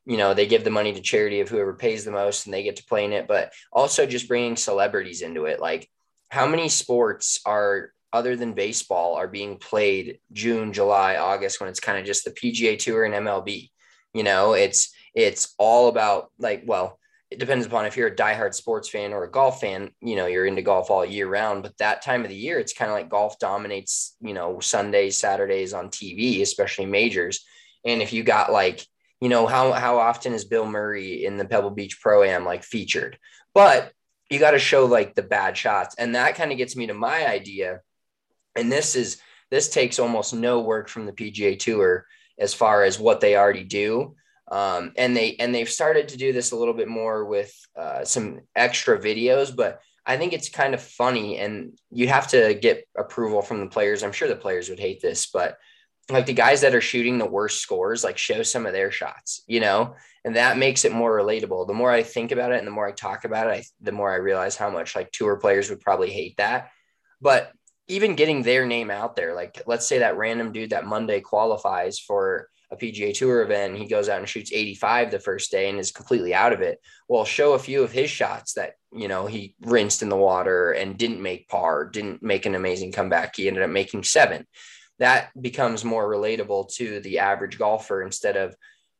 you know, they give the money to charity of whoever pays the most and they get to play in it, but also just bringing celebrities into it. Like, how many sports are, other than baseball, are being played June, July, August, when it's kind of just the P G A Tour and M L B? You know, it's, it's all about, like, well, it depends upon if you're a diehard sports fan or a golf fan, you know, you're into golf all year round, but that time of the year, it's kind of like golf dominates, you know, Sundays, Saturdays on T V, especially majors. And if you got like, you know, how, how often is Bill Murray in the Pebble Beach Pro-Am like featured? But you got to show like the bad shots. And that kind of gets me to my idea. And this is, this takes almost no work from the P G A Tour as far as what they already do. Um, and they, and they've started to do this a little bit more with uh, some extra videos, but I think it's kind of funny, and you have to get approval from the players. I'm sure the players would hate this, but like the guys that are shooting the worst scores, like show some of their shots, you know, and that makes it more relatable. The more I think about it and the more I talk about it, I, the more I realize how much like tour players would probably hate that. But even getting their name out there, like let's say that random dude that Monday qualifies for a P G A Tour event, he goes out and shoots eighty-five the first day and is completely out of it. Well, show a few of his shots that, you know, he rinsed in the water and didn't make par, didn't make an amazing comeback. He ended up making seven. That becomes more relatable to the average golfer instead of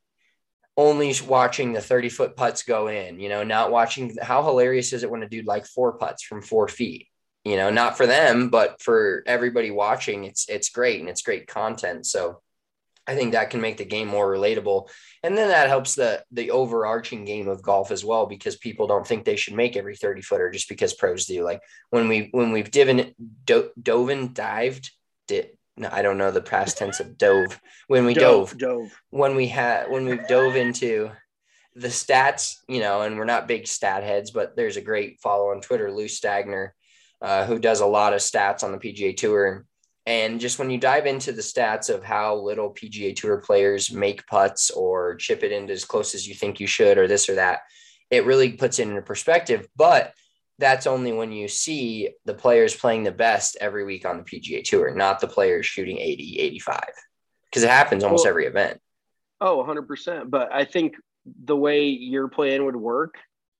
only watching the thirty foot putts go in, you know, not watching. How hilarious is it when a dude like four putts from four feet, you know, not for them, but for everybody watching, it's, it's great. And it's great content. So I think that can make the game more relatable. And then that helps the, the overarching game of golf as well, because people don't think they should make every thirty footer just because pros do. Like when we, when we've diven, do, dove and dived, did, no, I don't know the past tense of dove. When we dove, dove, dove. when we had, when we dove into the stats, you know, and we're not big stat heads, but there's a great follow on Twitter, Lou Stagner, uh, who does a lot of stats on the P G A Tour. And just when you dive into the stats of how little P G A Tour players make putts or chip it into as close as you think you should, or this or that, it really puts it into perspective. But that's only when you see the players playing the best every week on the P G A Tour, not the players shooting eighty, eighty-five, because it happens almost well, every event. Oh, one hundred percent. But I think the way your plan would work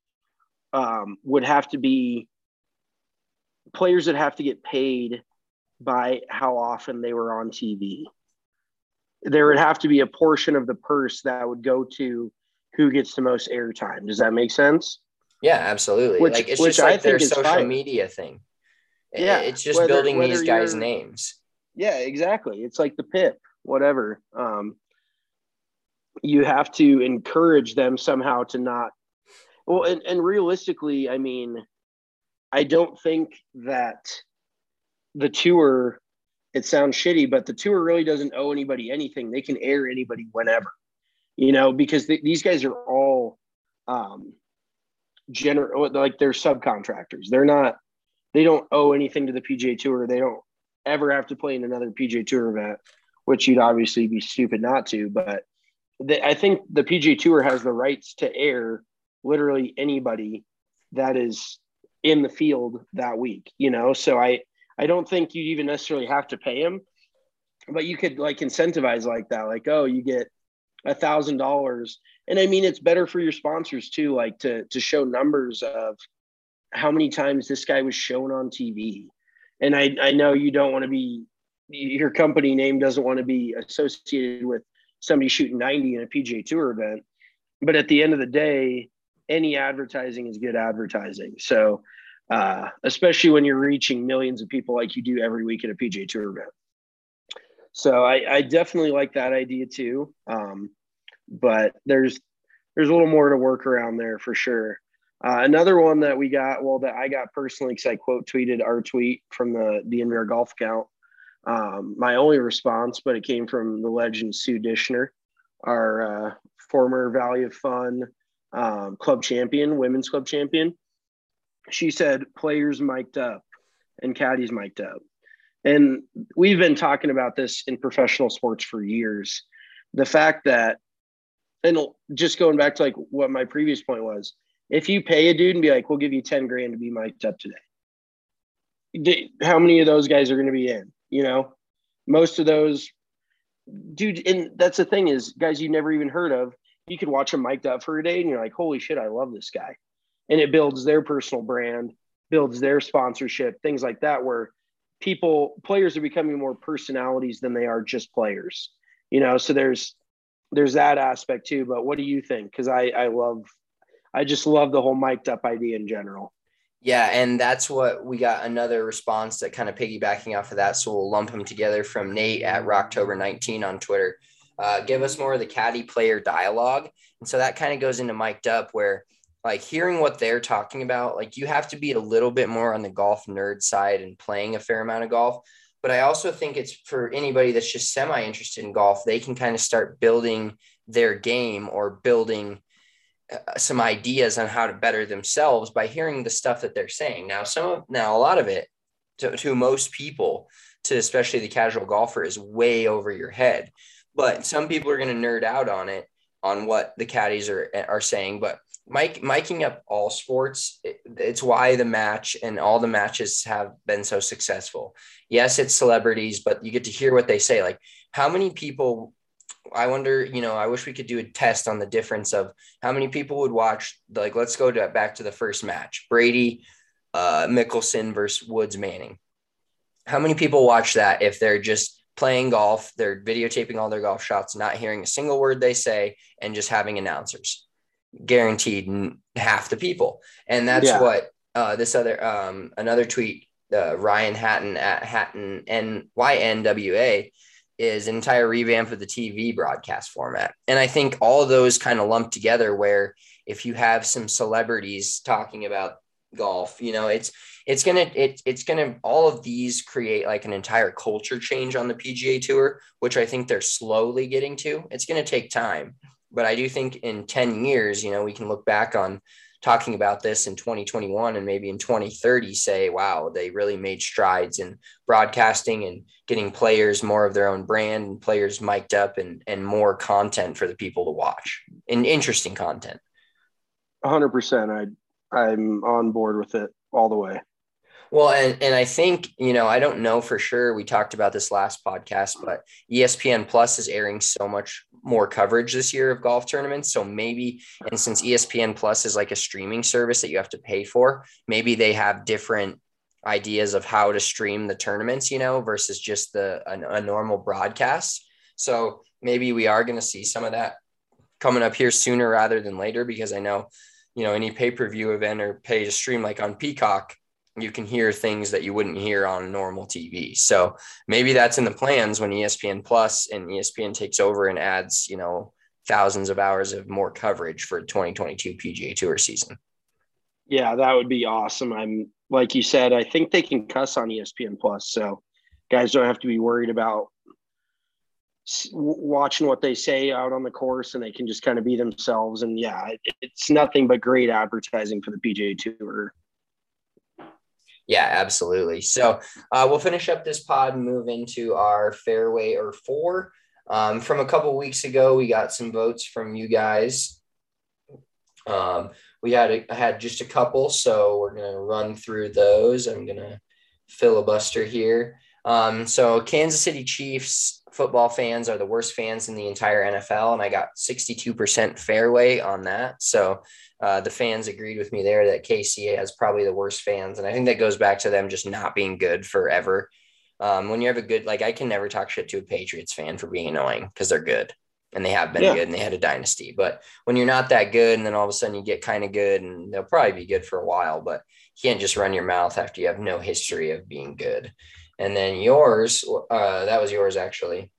um, would have to be players that have to get paid by how often they were on T V. There would have to be a portion of the purse that would go to who gets the most airtime. Does that make sense? Yeah, absolutely. Which, like it's which just like I their think is social fire. media thing. Yeah, it's just whether, building whether these guys' you're, names. Yeah, exactly. It's like the P I P, whatever. Um, you have to encourage them somehow to not. Well, and, and realistically, I mean, I don't think that the tour, it sounds shitty, but the tour really doesn't owe anybody anything. They can air anybody whenever, you know, because th- these guys are all um, general, like they're subcontractors. They're not, they don't owe anything to the P G A Tour. They don't ever have to play in another P G A Tour event, which you'd obviously be stupid not to. But they, I think the P G A Tour has the rights to air literally anybody that is in the field that week, you know? So I, I don't think you even necessarily have to pay him, but you could like incentivize like that. Like, oh, you get a thousand dollars. And I mean, it's better for your sponsors too, like to, to show numbers of how many times this guy was shown on T V. And I, I know you don't want to be, your company name doesn't want to be associated with somebody shooting ninety in a P G A Tour event. But at the end of the day, any advertising is good advertising. So, uh, especially when you're reaching millions of people like you do every week at a P G A Tour event. So I, I definitely like that idea too. Um, but there's, there's a little more to work around there for sure. Uh, another one that we got, well, that I got personally, because I quote tweeted our tweet from the D N V R golf account. Um, my only response, but it came from the legend Sue Dishner, our uh, former Valley of Fun um, club champion, women's club champion. She said, players mic'd up and caddies mic'd up. And we've been talking about this in professional sports for years. The fact that, and just going back to like what my previous point was, if you pay a dude and be like, we'll give you ten grand to be mic'd up today, how many of those guys are going to be in? You know, most of those, dude, and that's the thing is guys you never even heard of, you could watch them mic'd up for a day and you're like, holy shit, I love this guy. And it builds their personal brand, builds their sponsorship, things like that, where people, players are becoming more personalities than they are just players, you know? So there's, there's that aspect too. But what do you think? Cause I, I love, I just love the whole mic'd up idea in general. Yeah, and that's what we got another response that kind of piggybacking off of that. So we'll lump them together from Nate at Rocktober nineteen on Twitter. Uh, give us more of the caddy player dialogue. And so that kind of goes into mic'd up where like hearing what they're talking about, like you have to be a little bit more on the golf nerd side and playing a fair amount of golf. But I also think it's for anybody that's just semi-interested in golf, they can kind of start building their game or building some ideas on how to better themselves by hearing the stuff that they're saying. Now, some of, now a lot of it to, to most people, to especially the casual golfer, is way over your head, but some people are going to nerd out on it, on what the caddies are, are saying. But Mike, miking up all sports, it, it's why the match and all the matches have been so successful. Yes, it's celebrities, but you get to hear what they say. Like how many people, I wonder, you know, I wish we could do a test on the difference of how many people would watch, like, let's go to, back to the first match, Brady, uh, Mickelson versus Woods Manning. How many people watch that if they're just playing golf, they're videotaping all their golf shots, not hearing a single word they say, and just having announcers? Guaranteed half the people. And that's yeah. what uh, this other, um, another tweet, uh, Ryan Hatton at Hatton N Y N W A, is an entire revamp of the T V broadcast format. And I think all of those kind of lump together where if you have some celebrities talking about golf, you know, it's, it's going to, it, it's going to, all of these create like an entire culture change on the P G A Tour, which I think they're slowly getting to. It's going to take time, but I do think in ten years, you know, we can look back on talking about this in twenty twenty-one and maybe in twenty thirty say, wow, they really made strides in broadcasting and getting players more of their own brand and players mic'd up and, and more content for the people to watch and interesting content. A hundred percent. I, I'm on board with it all the way. Well, and, and I think, you know, I don't know for sure. We talked about this last podcast, but E S P N Plus is airing so much more coverage this year of golf tournaments. So maybe, and since E S P N Plus is like a streaming service that you have to pay for, maybe they have different ideas of how to stream the tournaments, you know, versus just the a, a normal broadcast. So maybe we are going to see some of that coming up here sooner rather than later, because I know, you know, any pay-per-view event or pay to stream like on Peacock, you can hear things that you wouldn't hear on normal T V. So maybe that's in the plans when E S P N Plus and E S P N takes over and adds, you know, thousands of hours of more coverage for twenty twenty-two P G A Tour season. Yeah, that would be awesome. I'm like you said, I think they can cuss on E S P N Plus. So guys don't have to be worried about watching what they say out on the course, and they can just kind of be themselves. And yeah, it, it's nothing but great advertising for the P G A Tour. Yeah, absolutely. So uh, we'll finish up this pod and move into our fairway or four. Um, from a couple weeks ago, we got some votes from you guys. Um, we had a, had just a couple, so we're going to run through those. I'm going to filibuster here. Um, so Kansas City Chiefs football fans are the worst fans in the entire N F L, and I got sixty-two percent fairway on that. So Uh, the fans agreed with me there that K C has probably the worst fans. And I think that goes back to them just not being good forever. Um, when you have a good, like I can never talk shit to a Patriots fan for being annoying because they're good and they have been yeah. good and they had a dynasty. But when you're not that good and then all of a sudden you get kind of good, and they'll probably be good for a while, but you can't just run your mouth after you have no history of being good. And then yours, uh, that was yours actually.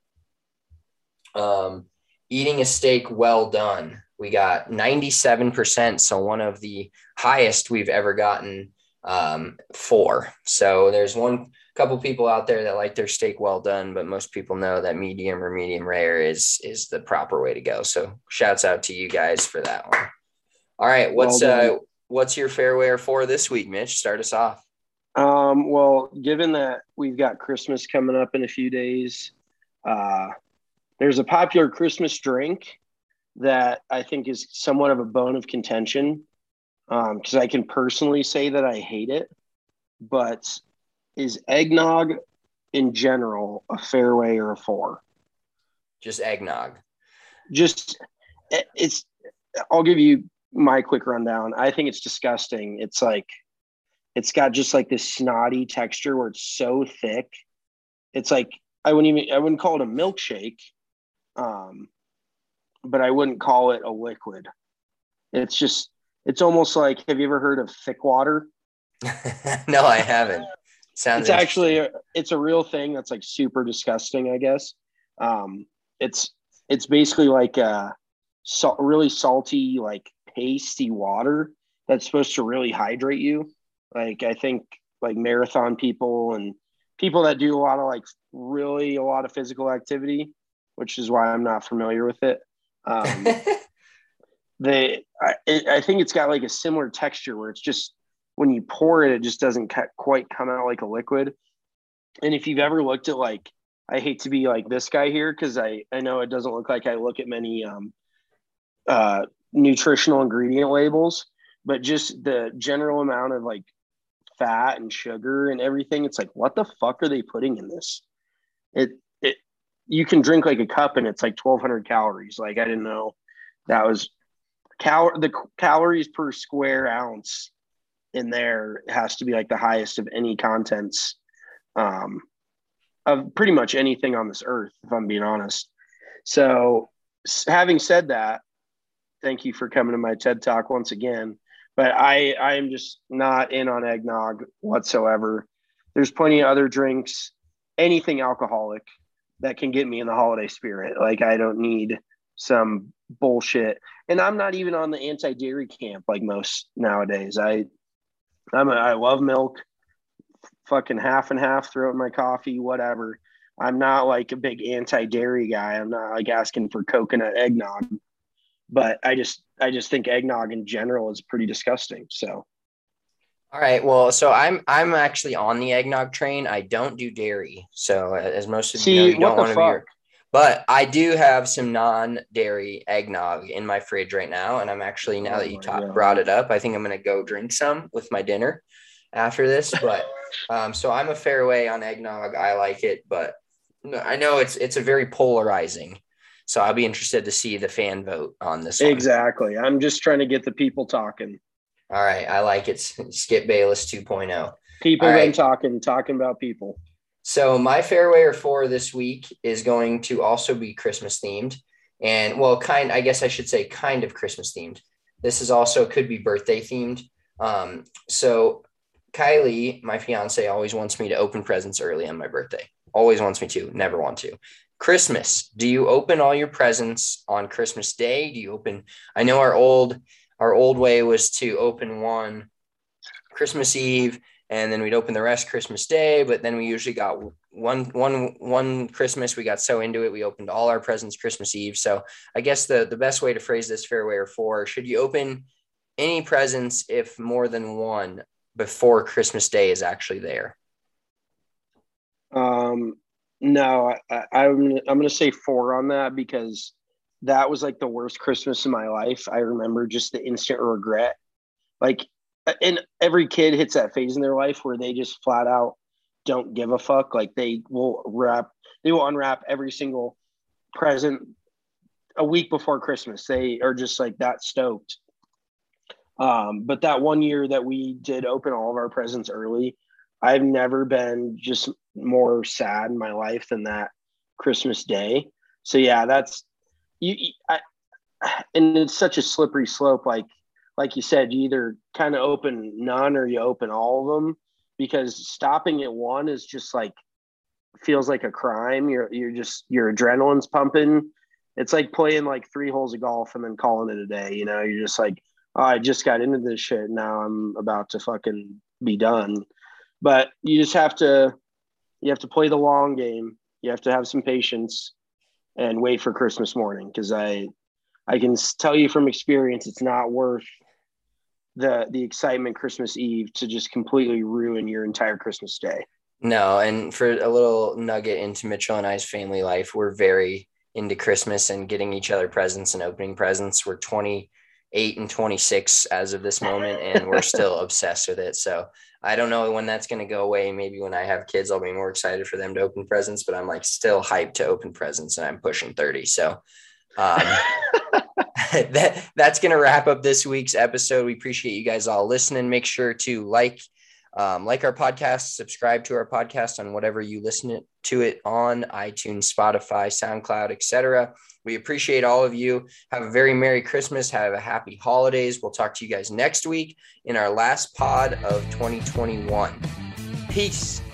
Um, eating a steak well done. We got ninety-seven percent, so one of the highest we've ever gotten um, for. So there's one couple people out there that like their steak well done, but most people know that medium or medium rare is is the proper way to go. So shouts out to you guys for that one. All right, what's well uh, what's your fairway or four this week, Mitch? Start us off. Um, well, given that we've got Christmas coming up in a few days, uh, there's a popular Christmas drink that I think is somewhat of a bone of contention, because um, I can personally say that I hate it, but is eggnog in general a fairway or a four? Just eggnog. Just it, it's, I'll give you my quick rundown. I think it's disgusting. It's like, it's got just like this snotty texture where it's so thick. It's like, I wouldn't even, I wouldn't call it a milkshake. Um, but I wouldn't call it a liquid. It's just, it's almost like, have you ever heard of thick water? No, I haven't. Sounds it's actually, a, it's a real thing that's like super disgusting, I guess. Um, it's, it's basically like a salt, really salty, like pasty water that's supposed to really hydrate you. Like, I think like marathon people and people that do a lot of like really a lot of physical activity, which is why I'm not familiar with it. Um, they, I, it, I think it's got like a similar texture where it's just, when you pour it, it just doesn't ca- quite come out like a liquid. And if you've ever looked at like, I hate to be like this guy here, cause I, I know it doesn't look like I look at many, um, uh, nutritional ingredient labels, but just the general amount of like fat and sugar and everything. It's like, what the fuck are they putting in this? It, it, you can drink like a cup and it's like twelve hundred calories. Like, I didn't know that was cal the calories per square ounce in there has to be like the highest of any contents, um, of pretty much anything on this earth, if I'm being honest. So having said that, thank you for coming to my TED Talk once again. But I, I am just not in on eggnog whatsoever. There's plenty of other drinks, anything alcoholic that can get me in the holiday spirit. Like, I don't need some bullshit. And I'm not even on the anti-dairy camp like most nowadays. I, I'm a, I love milk, fucking half and half, throw it in my coffee, whatever. I'm not like a big anti-dairy guy. I'm not like asking for coconut eggnog. But I just I just think eggnog in general is pretty disgusting. So, all right. Well, so I'm I'm actually on the eggnog train. I don't do dairy, so as most of see, you know, you don't want to fuck? be. But I do have some non-dairy eggnog in my fridge right now, and I'm actually now Oh that you my ta- God. brought it up, I think I'm gonna go drink some with my dinner after this. But um, so I'm a fair way on eggnog. I like it, but I know it's it's a very polarizing. So I'll be interested to see the fan vote on this one. Exactly. I'm just trying to get the people talking. All right. I like it. Skip Bayless two point oh. People All then right. talking, talking about people. So my fairwayer for this week is going to also be Christmas themed. And well, kind, I guess I should say kind of Christmas themed. This is also could be birthday themed. Um, so Kylie, my fiance, always wants me to open presents early on my birthday. Always wants me to, never want to. Christmas. Do you open all your presents on Christmas Day? Do you open? I know our old our old way was to open one Christmas Eve and then we'd open the rest Christmas Day. But then we usually got one one one Christmas. We got so into it, we opened all our presents Christmas Eve. So I guess the the best way to phrase this fairway or four: should you open any presents if more than one before Christmas Day is actually there? Um. No, I, I, I'm I'm gonna say four on that because that was like the worst Christmas in my life. I remember just the instant regret. Like, and every kid hits that phase in their life where they just flat out don't give a fuck. Like, they will wrap, they will unwrap every single present a week before Christmas. They are just like that stoked. Um, but that one year that we did open all of our presents early, I've never been just more sad in my life than that Christmas Day. So yeah, that's you. I, and it's such a slippery slope. Like, like you said, you either kind of open none or you open all of them, because stopping at one is just like, feels like a crime. You're, you're just, your adrenaline's pumping. It's like playing like three holes of golf and then calling it a day. You know, you're just like, oh, I just got into this shit. Now I'm about to fucking be done. But you just have to, you have to play the long game. You have to have some patience and wait for Christmas morning. Cause I, I can tell you from experience, it's not worth the, the excitement Christmas Eve to just completely ruin your entire Christmas day. No. And for a little nugget into Mitchell and I's family life, we're very into Christmas and getting each other presents and opening presents. We're twenty-eight and twenty-six as of this moment, and we're still obsessed with it. So I don't know when that's going to go away. Maybe when I have kids, I'll be more excited for them to open presents, but I'm like still hyped to open presents, and I'm pushing thirty. So um, that that's going to wrap up this week's episode. We appreciate you guys all listening. Make sure to like, um, like our podcast, subscribe to our podcast on whatever you listen to it on, iTunes, Spotify, SoundCloud, et cetera. We appreciate all of you. Have a very Merry Christmas. Have a happy holidays. We'll talk to you guys next week in our last pod of twenty twenty-one. Peace.